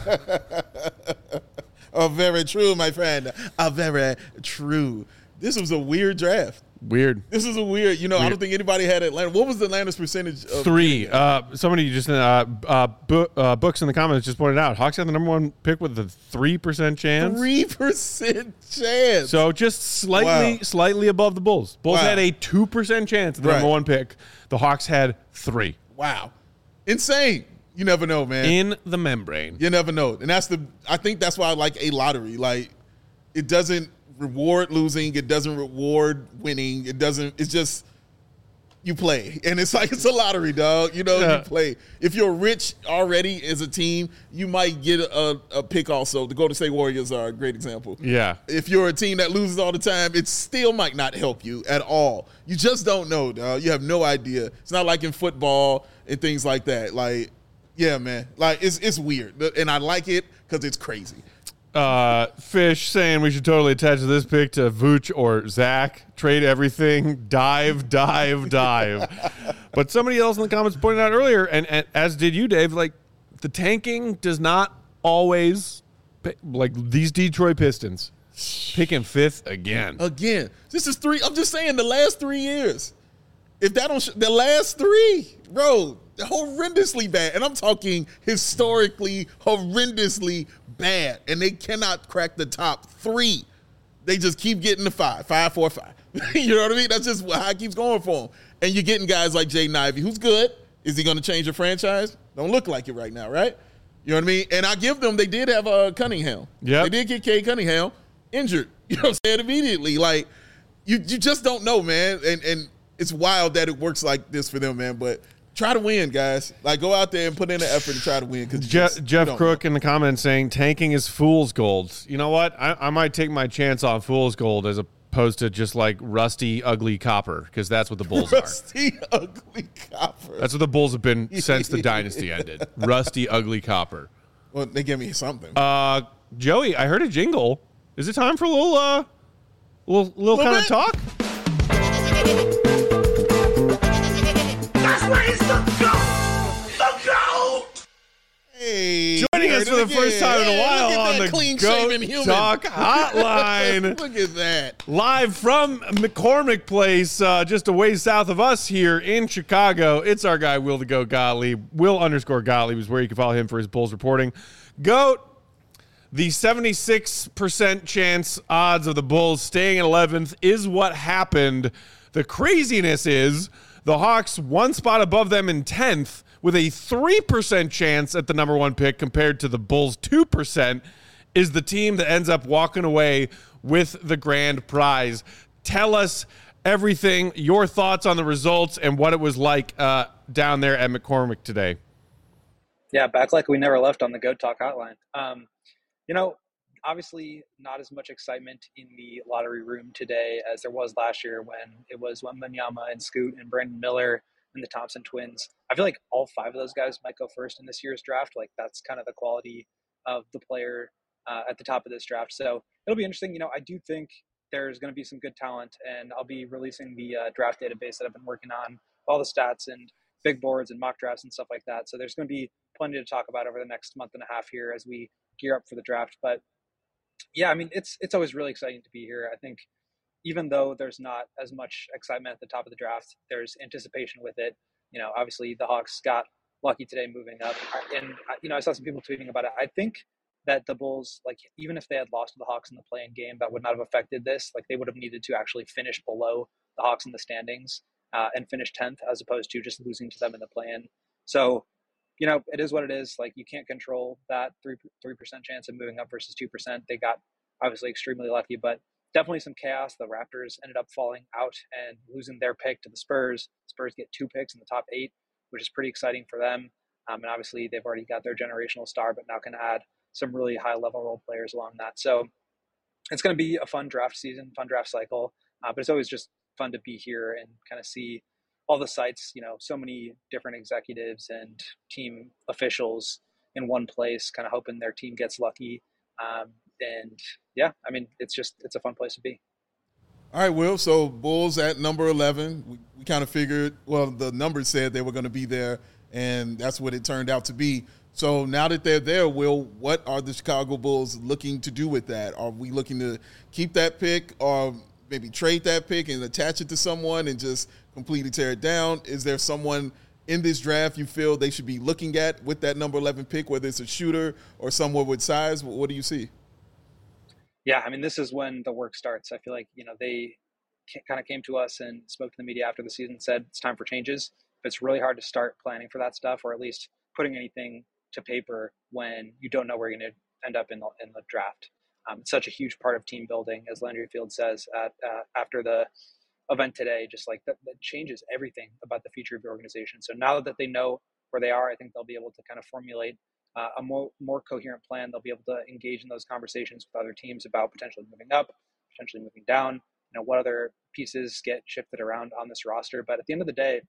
S2: Oh, very true, my friend. Oh, very true. This was a weird draft.
S1: Weird.
S2: This is a weird, you know,
S1: weird.
S2: I don't think anybody had Atlanta. What was Atlanta's percentage? Of
S1: Three. Uh, somebody just, uh, uh, bu- uh, Books in the comments just pointed out, Hawks had the number one pick with a three percent chance.
S2: three percent chance.
S1: So just slightly,
S2: Wow.
S1: slightly above the Bulls. Bulls
S2: Wow.
S1: had a two percent chance at the
S2: Right.
S1: number one pick. The Hawks had three.
S2: Wow. Insane. You never know, man.
S1: In the membrane.
S2: You never know. And that's the, I think that's why I like a lottery. Like, it doesn't reward losing. It doesn't reward winning. It doesn't, it's just, you play. And it's like, it's a lottery, dog. You know,
S1: Yeah.
S2: you play. If you're rich already as a team, you might get a, a pick also. The Golden State Warriors are a great example.
S1: Yeah.
S2: If you're a team that loses all the time, it still might not help you at all. You just don't know, dog. You have no idea. It's not like in football and things like that. Like, yeah, man. Like, it's it's weird. And I like it because it's crazy.
S1: Uh, Fish saying we should totally attach this pick to Vooch or Zach. Trade everything. Dive, dive, dive. But somebody else in the comments pointed out earlier, and, and as did you, Dave, like the tanking does not always, pay, like these Detroit Pistons, picking fifth again.
S2: Again, this is three. I'm just saying the last three years. If that don't, sh- the last three, bro, horrendously bad. And I'm talking historically horrendously bad. And they cannot crack the top three. They just keep getting the five, five, four, five. You know what I mean? That's just how it keeps going for them. And you're getting guys like Jaden Ivey, who's good. Is he going to change your franchise? Don't look like it right now, right? You know what I mean? And I give them, they did have uh, Cunningham.
S1: Yep.
S2: They did get Cade Cunningham injured. You know what I'm saying? Immediately. Like, you you just don't know, man. And and it's wild that it works like this for them, man. But try to win, guys. Like, go out there and put in the effort to try to win. Because
S1: Je- Jeff Crook in the comments saying tanking is fool's gold. You know what? I, I might take my chance on fool's gold as opposed to just like rusty, ugly copper, because that's what the Bulls
S2: rusty,
S1: are.
S2: Rusty, ugly copper.
S1: That's what the Bulls have been since the dynasty ended. Rusty, ugly copper.
S2: Well, they give me something.
S1: Uh, Joey, I heard a jingle. Is it time for a little, uh, little, little, little kind bit? of talk?
S4: That's where it's the GOAT! The GOAT!
S2: Hey,
S1: joining us for the
S2: again.
S1: first time in a while
S2: hey,
S1: on the
S2: clean-shaven
S1: Goat
S2: human.
S1: Talk Hotline.
S2: Look at that.
S1: Live from McCormick Place, uh, just a ways south of us here in Chicago. It's our guy, Will the Goat Gottlieb. Will underscore Gottlieb is where you can follow him for his Bulls reporting. Goat, the seventy-six percent chance odds of the Bulls staying at eleventh is what happened. The craziness is the Hawks one spot above them in tenth with a three percent chance at the number one pick compared to the Bulls' two percent is the team that ends up walking away with the grand prize. Tell us everything, your thoughts on the results and what it was like uh, down there at McCormick today.
S5: Yeah, back like we never left on the Goat Talk Hotline. Um, you know, obviously not as much excitement in the lottery room today as there was last year when it was Wembanyama and Scoot and Brandon Miller and the Thompson twins. I feel like all five of those guys might go first in this year's draft. Like, that's kind of the quality of the player uh, at the top of this draft. So it'll be interesting. You know, I do think there's going to be some good talent, and I'll be releasing the uh, draft database that I've been working on, all the stats and big boards and mock drafts and stuff like that. So there's going to be plenty to talk about over the next month and a half here as we gear up for the draft. But yeah, I mean, it's it's always really exciting to be here. I think even though there's not as much excitement at the top of the draft, there's anticipation with it. You know, obviously the Hawks got lucky today moving up. And, you know, I saw some people tweeting about it. I think that the Bulls, like, even if they had lost to the Hawks in the play-in game, that would not have affected this. Like, they would have needed to actually finish below the Hawks in the standings uh, and finish tenth as opposed to just losing to them in the play-in. So, you know, it is what it is. Like, you can't control that three, three percent chance of moving up versus two percent. They got obviously extremely lucky, but definitely some chaos. The Raptors ended up falling out and losing their pick to the Spurs. Spurs get two picks in the top eight, which is pretty exciting for them. Um, and obviously they've already got their generational star, but now can add some really high level role players along that. So it's going to be a fun draft season, fun draft cycle. Uh, but it's always just fun to be here and kind of see all the sites, you know, so many different executives and team officials in one place, kind of hoping their team gets lucky. Um, and yeah, I mean, it's just, it's a fun place to be.
S2: All right, Will. So Bulls at number eleven. We, we kind of figured, well, the numbers said they were going to be there, and that's what it turned out to be. So now that they're there, Will, what are the Chicago Bulls looking to do with that? Are we looking to keep that pick or maybe trade that pick and attach it to someone and just completely tear it down? Is there someone in this draft you feel they should be looking at with that number eleven pick, whether it's a shooter or someone with size? What do you see?
S5: Yeah, I mean, this is when the work starts. I feel like, you know, they kind of came to us and spoke to the media after the season and said it's time for changes. But it's really hard to start planning for that stuff, or at least putting anything to paper when you don't know where you're going to end up in the, in the draft. Um, it's such a huge part of team building, as Landry Field says at, uh, after the event today, just like that, that changes everything about the future of your organization. So now that they know where they are, I think they'll be able to kind of formulate uh, a more more coherent plan. They'll be able to engage in those conversations with other teams about potentially moving up, potentially moving down, you know, what other pieces get shifted around on this roster. But at the end of the day,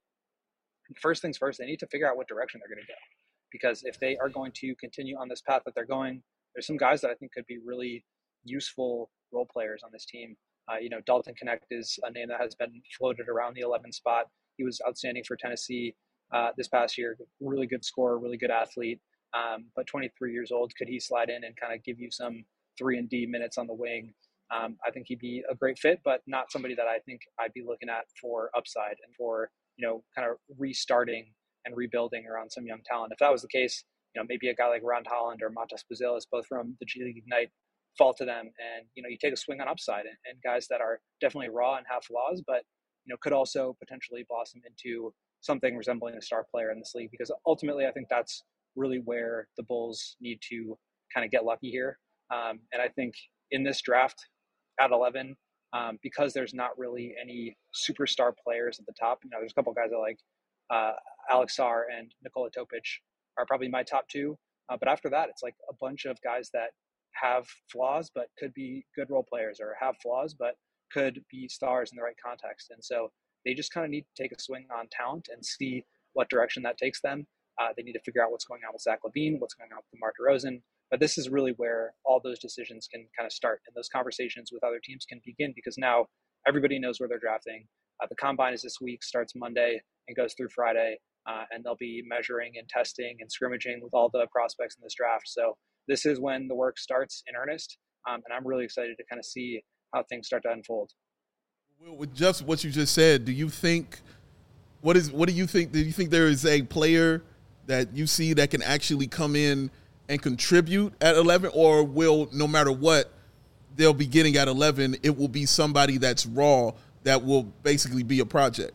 S5: first things first, they need to figure out what direction they're going to go. Because if they are going to continue on this path that they're going, there's some guys that I think could be really useful role players on this team. Uh, you know, Dalton Knecht is a name that has been floated around the eleven spot. He was outstanding for Tennessee uh, this past year. Really good scorer, really good athlete. Um, but twenty-three years old, could he slide in and kind of give you some three and D minutes on the wing? Um, I think he'd be a great fit, but not somebody that I think I'd be looking at for upside and for, you know, kind of restarting and rebuilding around some young talent. If that was the case, you know, maybe a guy like Ron Holland or Matas Buzelis, both from the G League Ignite, fall to them. And, you know, you take a swing on upside and, and guys that are definitely raw and have flaws, but, you know, could also potentially blossom into something resembling a star player in this league. Because ultimately, I think that's really where the Bulls need to kind of get lucky here. Um, and I think in this draft at eleven, um, because there's not really any superstar players at the top, you know, there's a couple guys that like uh, Alex Sarr and Nikola Topic are probably my top two. Uh, but after that, it's like a bunch of guys that have flaws, but could be good role players, or have flaws, but could be stars in the right context. And so they just kind of need to take a swing on talent and see what direction that takes them. Uh, they need to figure out what's going on with Zach LaVine, what's going on with DeMar DeRozan. But this is really where all those decisions can kind of start, and those conversations with other teams can begin, because now everybody knows where they're drafting. Uh, the combine is this week, starts Monday and goes through Friday, uh, and they'll be measuring and testing and scrimmaging with all the prospects in this draft. So this is when the work starts in earnest, um, and I'm really excited to kind of see how things start to unfold.
S2: Well, with just what you just said, do you think what is what do you think? Do you think there is a player that you see that can actually come in and contribute at eleven, or will, no matter what they'll be getting at eleven, it will be somebody that's raw that will basically be a project?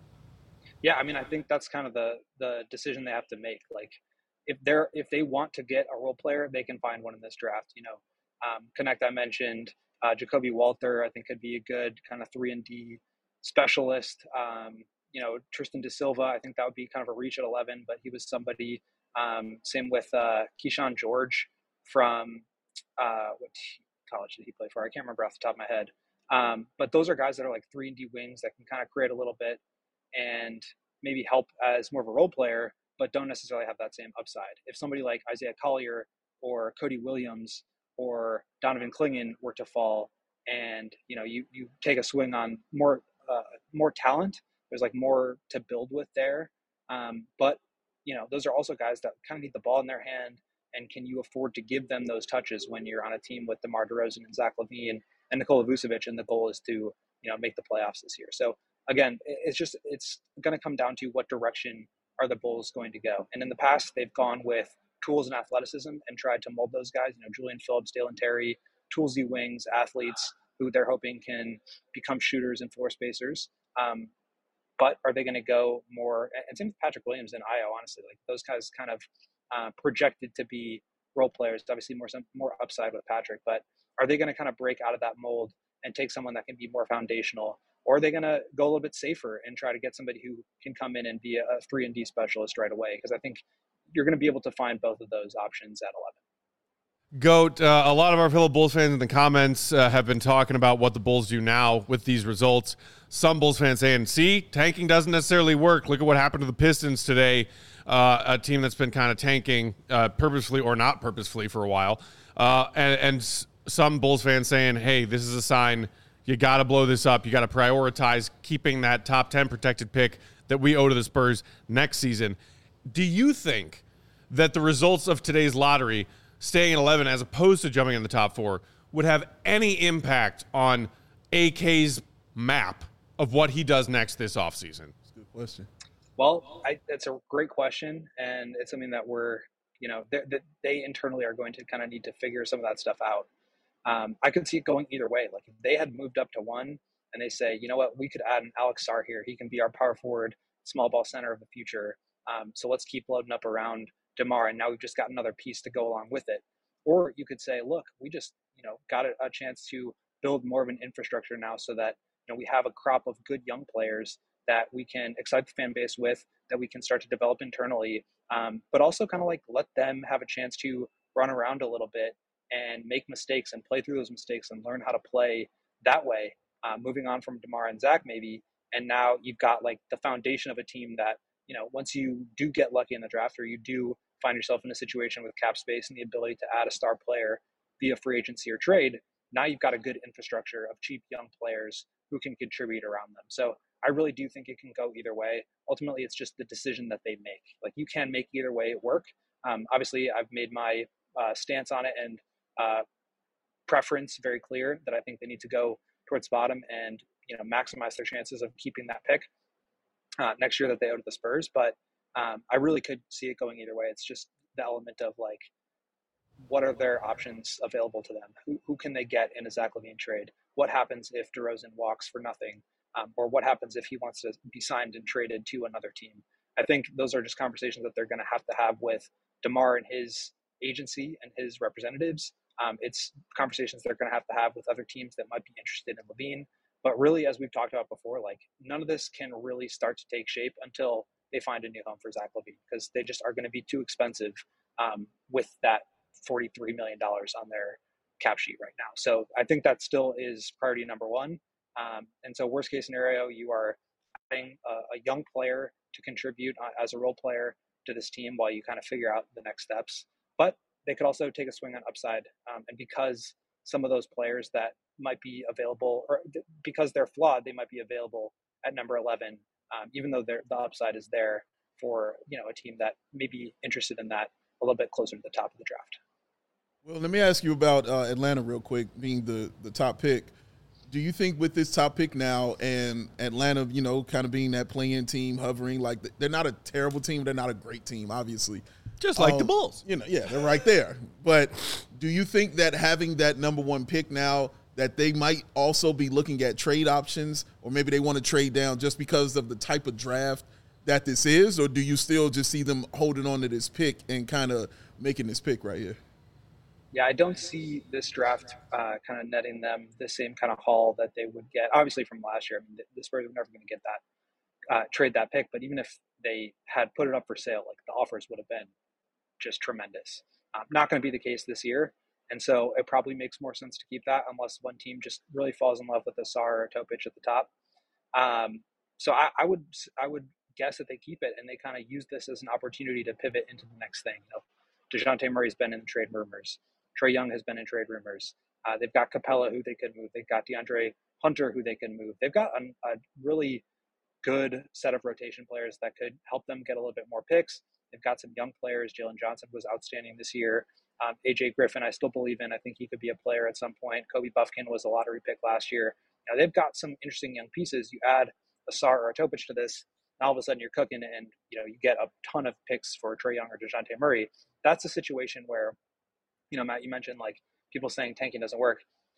S5: Yeah, I mean, I think that's kind of the the decision they have to make. Like, if they're if they want to get a role player, they can find one in this draft. You know, um, Knecht I mentioned, uh, Jacoby Walter I think could be a good kind of three and D specialist. Um, you know, Tristan Da Silva, I think that would be kind of a reach at eleven, but he was somebody. Um, same with uh, Keyshawn George from uh, what college did he play for? I can't remember off the top of my head. Um, but those are guys that are like three and D wings that can kind of create a little bit and maybe help as more of a role player, but don't necessarily have that same upside. If somebody like Isaiah Collier or Cody Williams or Donovan Clingan were to fall, and you know you you take a swing on more uh, more talent, there's like more to build with there. Um, but you know those are also guys that kind of need the ball in their hand, and can you afford to give them those touches when you're on a team with DeMar DeRozan and Zach LaVine and Nikola Vucevic, and the goal is to you know make the playoffs this year. So again, it's just it's going to come down to what direction are the Bulls going to go. And in the past, they've gone with tools and athleticism and tried to mold those guys. You know, Julian Phillips, Dalen Terry, toolsy wings, athletes who they're hoping can become shooters and floor spacers. Um, but are they going to go more? And same with Patrick Williams and Ayo, honestly. Like those guys kind of uh, projected to be role players. Obviously, more some more upside with Patrick, but are they going to kind of break out of that mold and take someone that can be more foundational? Or are they going to go a little bit safer and try to get somebody who can come in and be a three and D specialist right away? Because I think you're going to be able to find both of those options at eleven.
S1: Goat, uh, a lot of our fellow Bulls fans in the comments uh, have been talking about what the Bulls do now with these results. Some Bulls fans saying, see, tanking doesn't necessarily work. Look at what happened to the Pistons today, uh, a team that's been kind of tanking uh, purposefully or not purposefully for a while. Uh, and, and some Bulls fans saying, hey, this is a sign you got to blow this up. You got to prioritize keeping that top ten protected pick that we owe to the Spurs next season. Do you think that the results of today's lottery, staying at eleven as opposed to jumping in the top four, would have any impact on A K's map of what he does next this offseason?
S2: That's a good question.
S5: Well, I, that's a great question, and it's something that we're, you know, that they internally are going to kind of need to figure some of that stuff out. Um, I could see it going either way. Like if they had moved up to one and they say, you know what, we could add an Alex Sarr here. He can be our power forward, small ball center of the future. Um, so let's keep loading up around DeMar, and now we've just got another piece to go along with it. Or you could say, look, we just, you know, got a, a chance to build more of an infrastructure now so that, you know, we have a crop of good young players that we can excite the fan base with, that we can start to develop internally, um, but also kind of like let them have a chance to run around a little bit and make mistakes and play through those mistakes and learn how to play that way, uh, moving on from DeMar and Zach maybe. And now you've got like the foundation of a team that, you know, once you do get lucky in the draft or you do find yourself in a situation with cap space and the ability to add a star player via free agency or trade, now you've got a good infrastructure of cheap young players who can contribute around them. So I really do think it can go either way. Ultimately, it's just the decision that they make. Like you can make either way work. Um, obviously, I've made my uh, stance on it and uh, preference very clear that I think they need to go towards bottom and, you know, maximize their chances of keeping that pick uh, next year that they owe to the Spurs. But um, I really could see it going either way. It's just the element of like, what are their options available to them? Who, who can they get in a Zach LaVine trade? What happens if DeRozan walks for nothing? Um, or what happens if he wants to be signed and traded to another team? I think those are just conversations that they're going to have to have with DeMar and his agency and his representatives. Um, it's conversations they're going to have to have with other teams that might be interested in LaVine. But really, as we've talked about before, like none of this can really start to take shape until they find a new home for Zach LaVine, because they just are going to be too expensive um, with that forty-three million dollars on their cap sheet right now. So I think that still is priority number one. Um, and so worst case scenario, you are adding a, a young player to contribute uh, as a role player to this team while you kind of figure out the next steps. But they could also take a swing on upside. Um, and because some of those players that might be available, or th- because they're flawed, they might be available at number eleven, um, even though the upside is there for, you know, a team that may be interested in that a little bit closer to the top of the draft.
S2: Well, let me ask you about uh, Atlanta real quick, being the, the top pick. Do you think with this top pick now and Atlanta, you know, kind of being that play-in team, hovering, like they're not a terrible team, they're not a great team, obviously.
S1: Just like
S2: um,
S1: the Bulls.
S2: You know, yeah, they're right there. But do you think that having that number one pick now, that they might also be looking at trade options, or maybe they want to trade down just because of the type of draft that this is, or do you still just see them holding on to this pick and kind of making this pick right here?
S5: Yeah, I don't see this draft uh, kind of netting them the same kind of haul that they would get, obviously, from last year. I mean, the, the Spurs were never going to get that, uh, trade that pick. But even if they had put it up for sale, like the offers would have been just tremendous. Um, not going to be the case this year. And so it probably makes more sense to keep that unless one team just really falls in love with the Sarr or Topic at the top. Um, so I, I would I would guess that they keep it and they kind of use this as an opportunity to pivot into the next thing. You know, DeJounte Murray's been in the trade rumors. Trae Young has been in trade rumors. Uh, they've got Capella, who they could move. They've got DeAndre Hunter, who they can move. They've got a, a really good set of rotation players that could help them get a little bit more picks. They've got some young players. Jalen Johnson was outstanding this year. Um, A J Griffin, I still believe in. I think he could be a player at some point. Kobe Buffkin was a lottery pick last year. Now, they've got some interesting young pieces. You add a Sarr or a Topic to this, and all of a sudden you're cooking, and you know you get a ton of picks for Trae Young or DeJounte Murray. That's a situation where, you know, Matt, you mentioned like people saying tanking doesn't work.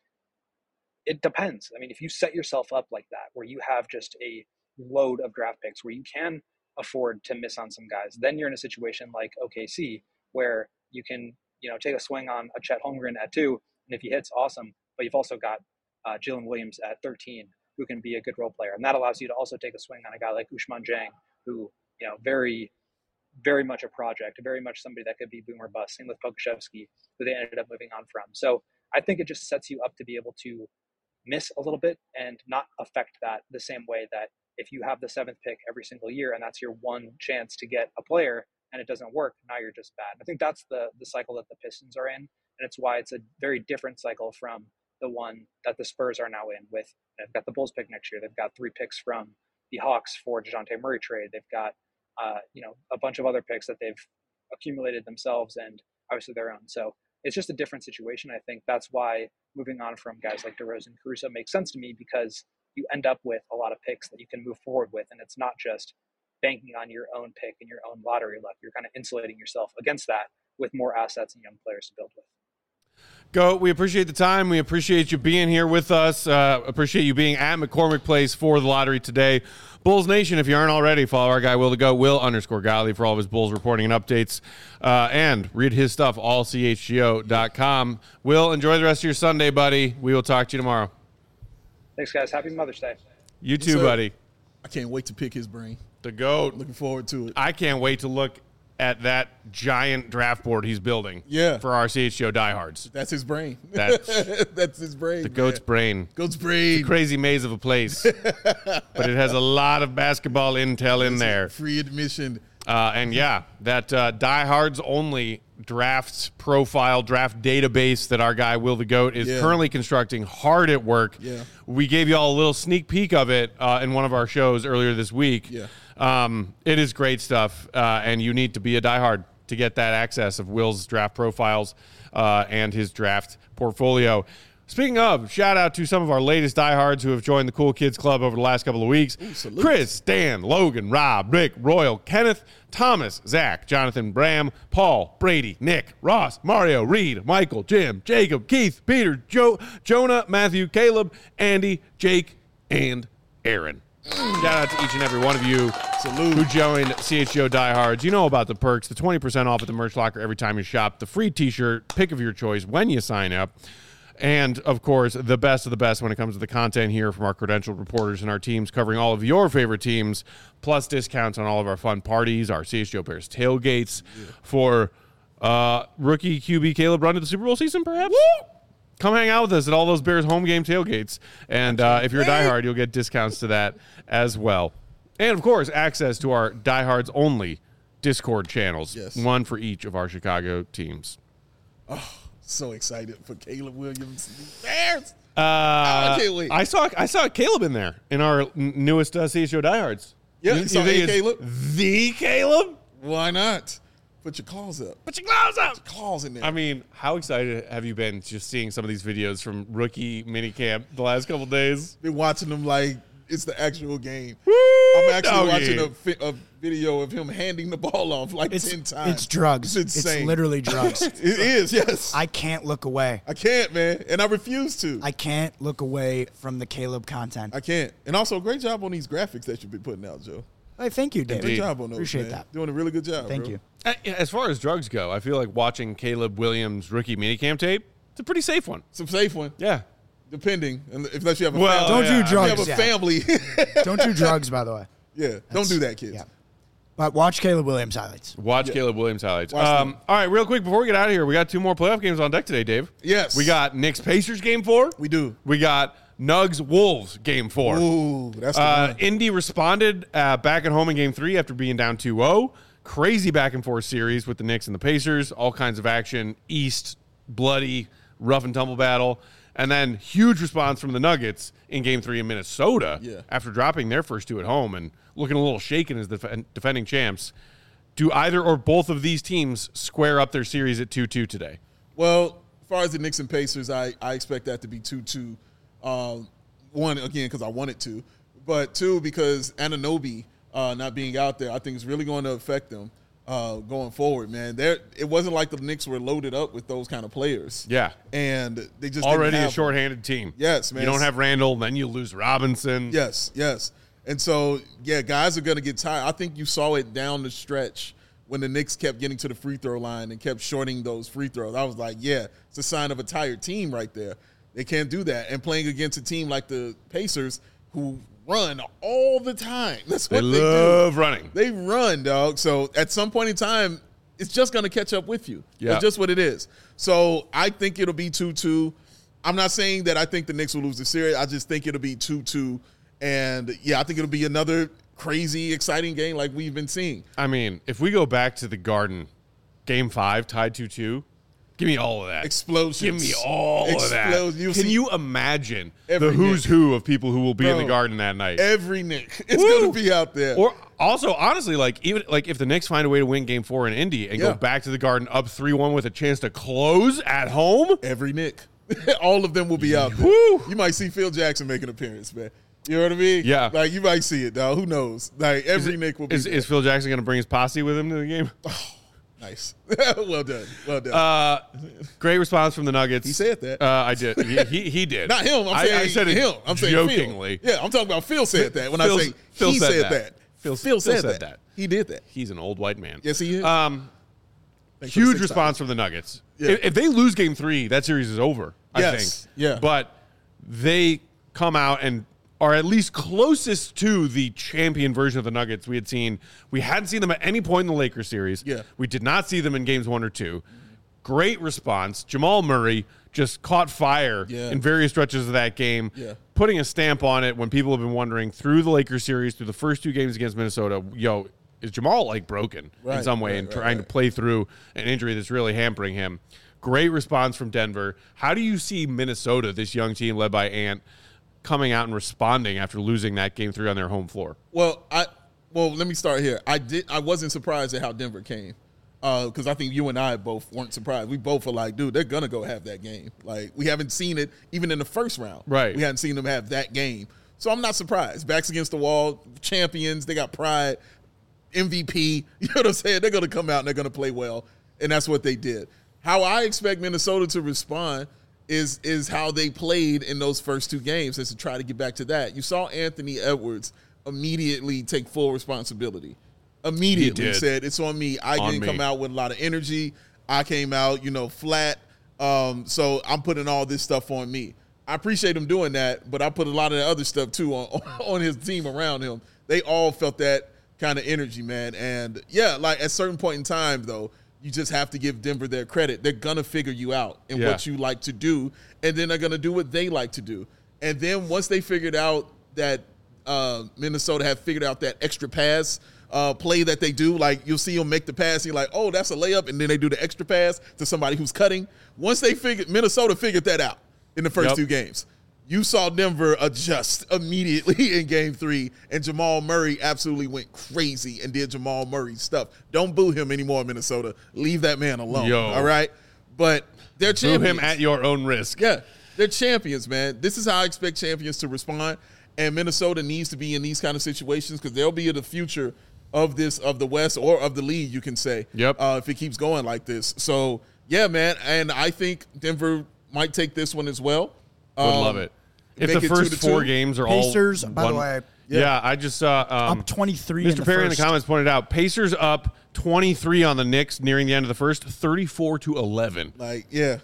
S5: It depends. I mean, if you set yourself up like that, where you have just a load of draft picks where you can afford to miss on some guys, then you're in a situation like O K C where you can, you know, take a swing on a Chet Holmgren at two, and if he hits, awesome. But you've also got uh, Jalen Williams at thirteen, who can be a good role player, and that allows you to also take a swing on a guy like Ousmane Dieng, who, you know, very very much a project, very much somebody that could be boom or bust. Same with Pokusevski, who they ended up moving on from. So I think it just sets you up to be able to miss a little bit and not affect that the same way that if you have the seventh pick every single year and that's your one chance to get a player and it doesn't work, now you're just bad. I think that's the the cycle that the Pistons are in, and it's why it's a very different cycle from the one that the Spurs are now in with, they've got the Bulls pick next year. They've got three picks from the Hawks for DeJounte Murray trade. They've got, uh, you know, a bunch of other picks that they've accumulated themselves and obviously their own. So it's just a different situation. I think that's why moving on from guys like DeRozan and Caruso makes sense to me, because you end up with a lot of picks that you can move forward with. And it's not just banking on your own pick and your own lottery luck. You're kind of insulating yourself against that with more assets and young players to build with.
S1: Go. We appreciate the time. We appreciate you being here with us. Uh, appreciate you being at McCormick Place for the lottery today. Bulls Nation, if you aren't already, follow our guy Will the Go, Will underscore Gottlieb for all of his Bulls reporting and updates. Uh, and read his stuff, all C H G O dot com. Will, enjoy the rest of your Sunday, buddy. We will talk to you tomorrow.
S5: Thanks, guys. Happy Mother's Day.
S1: You too,
S2: Yes,
S1: buddy.
S2: I can't wait to pick his brain.
S1: The GOAT.
S2: Looking forward to it.
S1: I can't wait to look at that giant draft board he's building
S2: Yeah.
S1: for our C H G O diehards.
S2: That's his brain.
S1: That's-
S2: That's his brain.
S1: The GOAT's
S2: man.
S1: brain.
S2: Goat's brain.
S1: Crazy maze of a place. But it has a lot of basketball intel in there.
S2: Free admission.
S1: Uh, and yeah, that uh, diehards only draft profile, draft database that our guy Will the Goat is
S2: Yeah.
S1: currently constructing, hard at work.
S2: Yeah.
S1: We gave you all a little sneak peek of it uh, in one of our shows earlier this week.
S2: Yeah.
S1: Um, it is great stuff, uh, and you need to be a diehard to get that access of Will's draft profiles uh, and his draft portfolio. Speaking of, shout out to some of our latest diehards who have joined the Cool Kids Club over the last couple of weeks.
S2: Ooh, salute.
S1: Chris, Dan, Logan, Rob, Rick, Royal, Kenneth, Thomas, Zach, Jonathan, Bram, Paul, Brady, Nick, Ross, Mario, Reed, Michael, Jim, Jacob, Keith, Peter, Joe, Jonah, Matthew, Caleb, Andy, Jake, and Aaron. Shout out to each and every one of you
S2: Salute.
S1: who joined C H G O Diehards. You know about the perks, the twenty percent off at the merch locker every time you shop, the free t-shirt, pick of your choice when you sign up, and, of course, the best of the best when it comes to the content here from our credentialed reporters and our teams covering all of your favorite teams, plus discounts on all of our fun parties, our C H G O Bears tailgates yeah. for uh, rookie Q B Caleb run to the Super Bowl season, perhaps? Woo! Come hang out with us at all those Bears home game tailgates. And uh, if you're a diehard, you'll get discounts to that as well. And, of course, access to our diehards only Discord channels,
S2: Yes.
S1: one for each of our Chicago teams.
S2: Oh, so excited for Caleb Williams. Bears.
S1: Uh,
S2: I can't wait.
S1: I saw I saw Caleb in there in our n- newest uh, C H G O diehards.
S2: Yeah,
S1: you,
S2: you saw
S1: think
S2: A
S1: it's
S2: Caleb?
S1: The Caleb?
S2: Why not? Put your claws up.
S1: Put your gloves up.
S2: Claws in there.
S1: I mean, how excited have you been just seeing some of these videos from rookie minicamp the last couple days?
S2: Been watching them like it's the actual game.
S1: Woo,
S2: I'm actually
S1: doggy.
S2: watching a, fi- a video of him handing the ball off like
S3: It's,
S2: ten times.
S3: it's drugs.
S2: It's
S3: It's,
S2: insane.
S3: literally drugs.
S2: It is, yes. I,
S3: I can't look away.
S2: I can't, man. And I refuse to.
S3: I can't look away from the Caleb content.
S2: I can't. And also, great job on these graphics that you've been putting out, Joe.
S3: Hey, thank you, David.
S2: Great job on those,
S3: Appreciate
S2: man.
S3: that.
S2: Doing a really good job,
S3: Thank
S2: bro.
S3: you.
S1: Uh, As far as drugs go, I feel like watching Caleb Williams' rookie minicamp tape, it's a pretty safe one.
S2: It's a safe one,
S1: Yeah.
S2: depending. Unless you have a
S1: Well,
S2: family.
S3: Don't
S1: yeah,
S3: do drugs.
S2: If you have a
S3: yeah.
S2: family.
S3: Don't do drugs, by the way.
S2: yeah, don't do that, kids.
S3: Yeah. But watch Caleb Williams highlights.
S1: Watch
S2: Yeah.
S1: Caleb Williams highlights.
S2: Watch
S1: Um,
S2: them.
S1: all right, real quick, before we get out of here, we got two more playoff games on deck today, Dave.
S2: Yes.
S1: We got Knicks Pacers game four.
S2: We do.
S1: We got Nugs Wolves game four.
S2: Ooh, that's the
S1: Uh,
S2: one.
S1: Indy responded uh, back at home in game three after being down two oh. Crazy back and forth series with the Knicks and the Pacers. All kinds of action. East, bloody, rough and tumble battle. And then huge response from the Nuggets in game three in Minnesota
S2: Yeah.
S1: after dropping their first two at home and looking a little shaken as def- defending champs. Do either or both of these teams square up their series at two two today?
S2: Well, as far as the Knicks and Pacers, I, I expect that to be two two. Um, one, again, because I want it to. But two, because Anunoby uh, not being out there, I think is really going to affect them uh, going forward, man. There, it wasn't like the Knicks were loaded up with those kind of players.
S1: Yeah.
S2: And they just didn't
S1: Already a
S2: have them.
S1: shorthanded team.
S2: Yes, man.
S1: You don't have Randall, then you lose Robinson.
S2: Yes, yes. And so, yeah, guys are going to get tired. I think you saw it down the stretch when the Knicks kept getting to the free throw line and kept shorting those free throws. I was like, yeah, it's a sign of a tired team right there. They can't do that. And playing against a team like the Pacers, who run all the time. That's
S1: They
S2: what they,
S1: love
S2: do.
S1: running.
S2: They run, dog. So at some point in time, it's just going to catch up with you.
S1: Yeah.
S2: That's just what it is. So I think it'll be two two. I'm not saying that I think the Knicks will lose the series. I just think it'll be two two. And, yeah, I think it'll be another crazy, exciting game like we've been seeing.
S1: I mean, if we go back to the Garden, game five, tied two two, give me all of that.
S2: Explosions.
S1: Give me all of that.
S2: Explosions. You'll
S1: Can
S2: see
S1: you imagine
S2: every
S1: the who's
S2: Knick.
S1: who of people who will be in the
S2: Bro,
S1: Garden that night?
S2: Every Knick is
S1: Woo!
S2: going to be out there.
S1: Or also, honestly, like even like if the Knicks find a way to win Game Four in Indy and
S2: Yeah.
S1: go back to the Garden up three one with a chance to close at home,
S2: Every Knick. All of them will be out there.
S1: Woo!
S2: You might see Phil Jackson make an appearance, man. You know what I mean?
S1: Yeah.
S2: Like, you might see it, dog. Who knows? Like, every Knick will be
S1: is,
S2: there.
S1: is Phil Jackson going to bring his posse with him to the game?
S2: Nice. Well done. Well done.
S1: Uh, great response from the Nuggets.
S2: He said that.
S1: Uh, I did. He, he, he did.
S2: Not him. I'm
S1: I-
S2: saying
S1: I said it
S2: him. I'm saying
S1: jokingly.
S2: Phil. Yeah, I'm talking about Phil said that when
S1: Phil's-
S2: I say
S1: Phil
S2: he
S1: said
S2: said,
S1: that.
S2: that.
S1: Phil-
S2: Phil,
S1: Phil
S2: said,
S1: said
S2: that.
S1: that.
S2: He did that.
S1: He's an old white man.
S2: Yes, he is.
S1: Um,
S2: Thanks for the
S1: huge
S2: six
S1: response from the Nuggets.
S2: Yeah.
S1: If, if they lose Game Three, that series is over. I
S2: Yes.
S1: think.
S2: Yeah.
S1: But they come out and are at least closest to the champion version of the Nuggets we had seen. We hadn't seen them at any point in the Lakers series.
S2: Yeah.
S1: We did not see them in games one or two. Great response. Jamal Murray just caught fire
S2: Yeah.
S1: in various stretches of that game,
S2: Yeah.
S1: putting a stamp on it when people have been wondering through the Lakers series, through the first two games against Minnesota, yo, is Jamal like broken in
S2: Right,
S1: some way
S2: right,
S1: and
S2: right,
S1: trying
S2: right.
S1: to play through an injury that's really hampering him? Great response from Denver. How do you see Minnesota, this young team led by Ant, coming out and responding after losing that game three on their home floor?
S2: Well, I well, let me start here. I did. I wasn't surprised at how Denver came because I think you and I both weren't surprised. We both were like, dude, they're gonna go have that game. Like, we haven't seen it even in the first round.
S1: Right.
S2: We hadn't seen them have that game, so I'm not surprised. Backs against the wall, champions. They got pride. M V P. You know what I'm saying? They're gonna come out and they're gonna play well, and that's what they did. How I expect Minnesota to respond is is how they played in those first two games, is to try to get back to that. You saw Anthony Edwards immediately take full responsibility. Immediately
S1: He did.
S2: said, it's on me. I
S1: On
S2: didn't
S1: me.
S2: come out with a lot of energy. I came out, you know, flat. Um, so I'm putting all this stuff on me. I appreciate him doing that, but I put a lot of the other stuff too on, on his team around him. They all felt that kind of energy, man. And yeah, like at a certain point in time, though, you just have to give Denver their credit. They're going to figure you out and
S1: Yeah.
S2: what you like to do, and then they're going to do what they like to do. And then once they figured out that uh, Minnesota have figured out that extra pass uh, play that they do, like you'll see them make the pass, and you're like, oh, that's a layup, and then they do the extra pass to somebody who's cutting. Once they figured, Minnesota figured that out in the first
S1: Yep.
S2: two games. You saw Denver adjust immediately in game three, and Jamal Murray absolutely went crazy and did Jamal Murray stuff. Don't boo him anymore, Minnesota. Leave that man alone,
S1: Yo.
S2: all right? But they're
S1: Boo
S2: champions.
S1: him at your own risk.
S2: Yeah, they're champions, man. This is how I expect champions to respond, and Minnesota needs to be in these kind of situations because they'll be in the future of this, of the West or of the league, you can say,
S1: Yep.
S2: uh, if it keeps going like this. So, yeah, man, and I think Denver might take this one as well.
S1: Would
S2: Um,
S1: love it. If
S2: make
S1: the
S2: it two
S1: first
S2: to
S1: four
S2: two.
S1: games are
S3: Pacers,
S1: all
S3: by the
S1: one-
S3: way,
S1: yeah.
S2: Yeah.
S1: I just saw um,
S3: up twenty-three.
S1: Mister
S3: in the
S1: Perry
S3: first.
S1: in the comments pointed out Pacers up twenty-three on the Knicks nearing the end of the first, thirty-four to eleven.
S2: Like, yeah.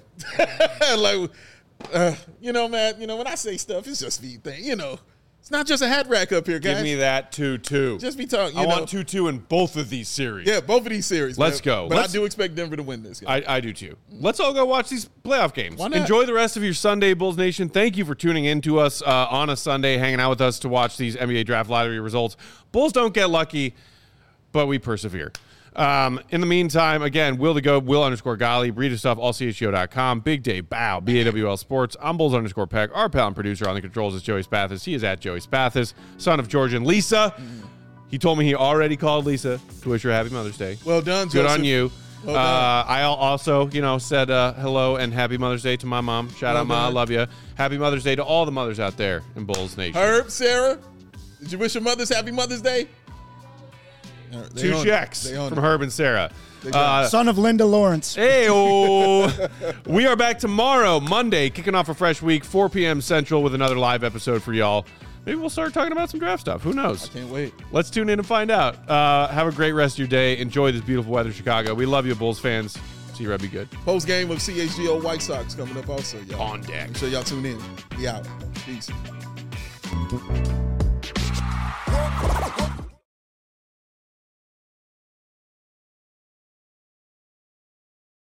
S2: like, uh, you know, man, you know, when I say stuff, it's just me thing. You know, it's not just a hat rack up here, guys.
S1: Give me that two two.
S2: Just be talking. You
S1: I
S2: know.
S1: want two two in both of these series.
S2: Yeah, both of these series.
S1: Let's
S2: man.
S1: go.
S2: But
S1: Let's-
S2: I do expect Denver to win this. Guys.
S1: I, I do too. Let's all go watch these playoff games.
S2: Why not?
S1: Enjoy the rest of your Sunday, Bulls Nation. Thank you for tuning in to us uh, on a Sunday, hanging out with us to watch these N B A draft lottery results. Bulls don't get lucky, but we persevere. Um, in the meantime, again, Will the Go, Will underscore Golly, Breed of Stuff, all C H G O dot com, Big Day Bow, B A W L Sports. I'm Bulls underscore Peck. Our pal and producer on the controls is Joey Spathis. He is at Joey Spathis, son of George and Lisa. He told me he already called Lisa to wish her happy Mother's Day.
S2: Well done,
S1: Good
S2: Joseph.
S1: on you.
S2: Well
S1: uh,
S2: done.
S1: I al- also, you know, said uh, hello and happy Mother's Day to my mom. Shout
S2: Well
S1: out, Ma. I
S2: done.
S1: love you. Happy Mother's Day to all the mothers out there in Bulls Nation.
S2: Herb, Sarah, did you wish your mothers happy Mother's Day? They
S1: Two
S2: on it.
S1: checks
S2: They on
S1: from
S2: it.
S1: Herb and Sarah.
S2: got
S1: Uh,
S3: Son of Linda Lawrence.
S1: Hey, we are back tomorrow, Monday, kicking off a fresh week, four p.m. Central, with another live episode for y'all. Maybe we'll start talking about some draft stuff. Who knows?
S2: Can't wait.
S1: Let's tune in and find out. Uh, have a great rest of your day. Enjoy this beautiful weather in Chicago. We love you, Bulls fans. See you, Red. Be good.
S2: Post game of C H G O White Sox coming up also, y'all.
S1: On deck.
S2: Make sure y'all tune in. Be out. Peace.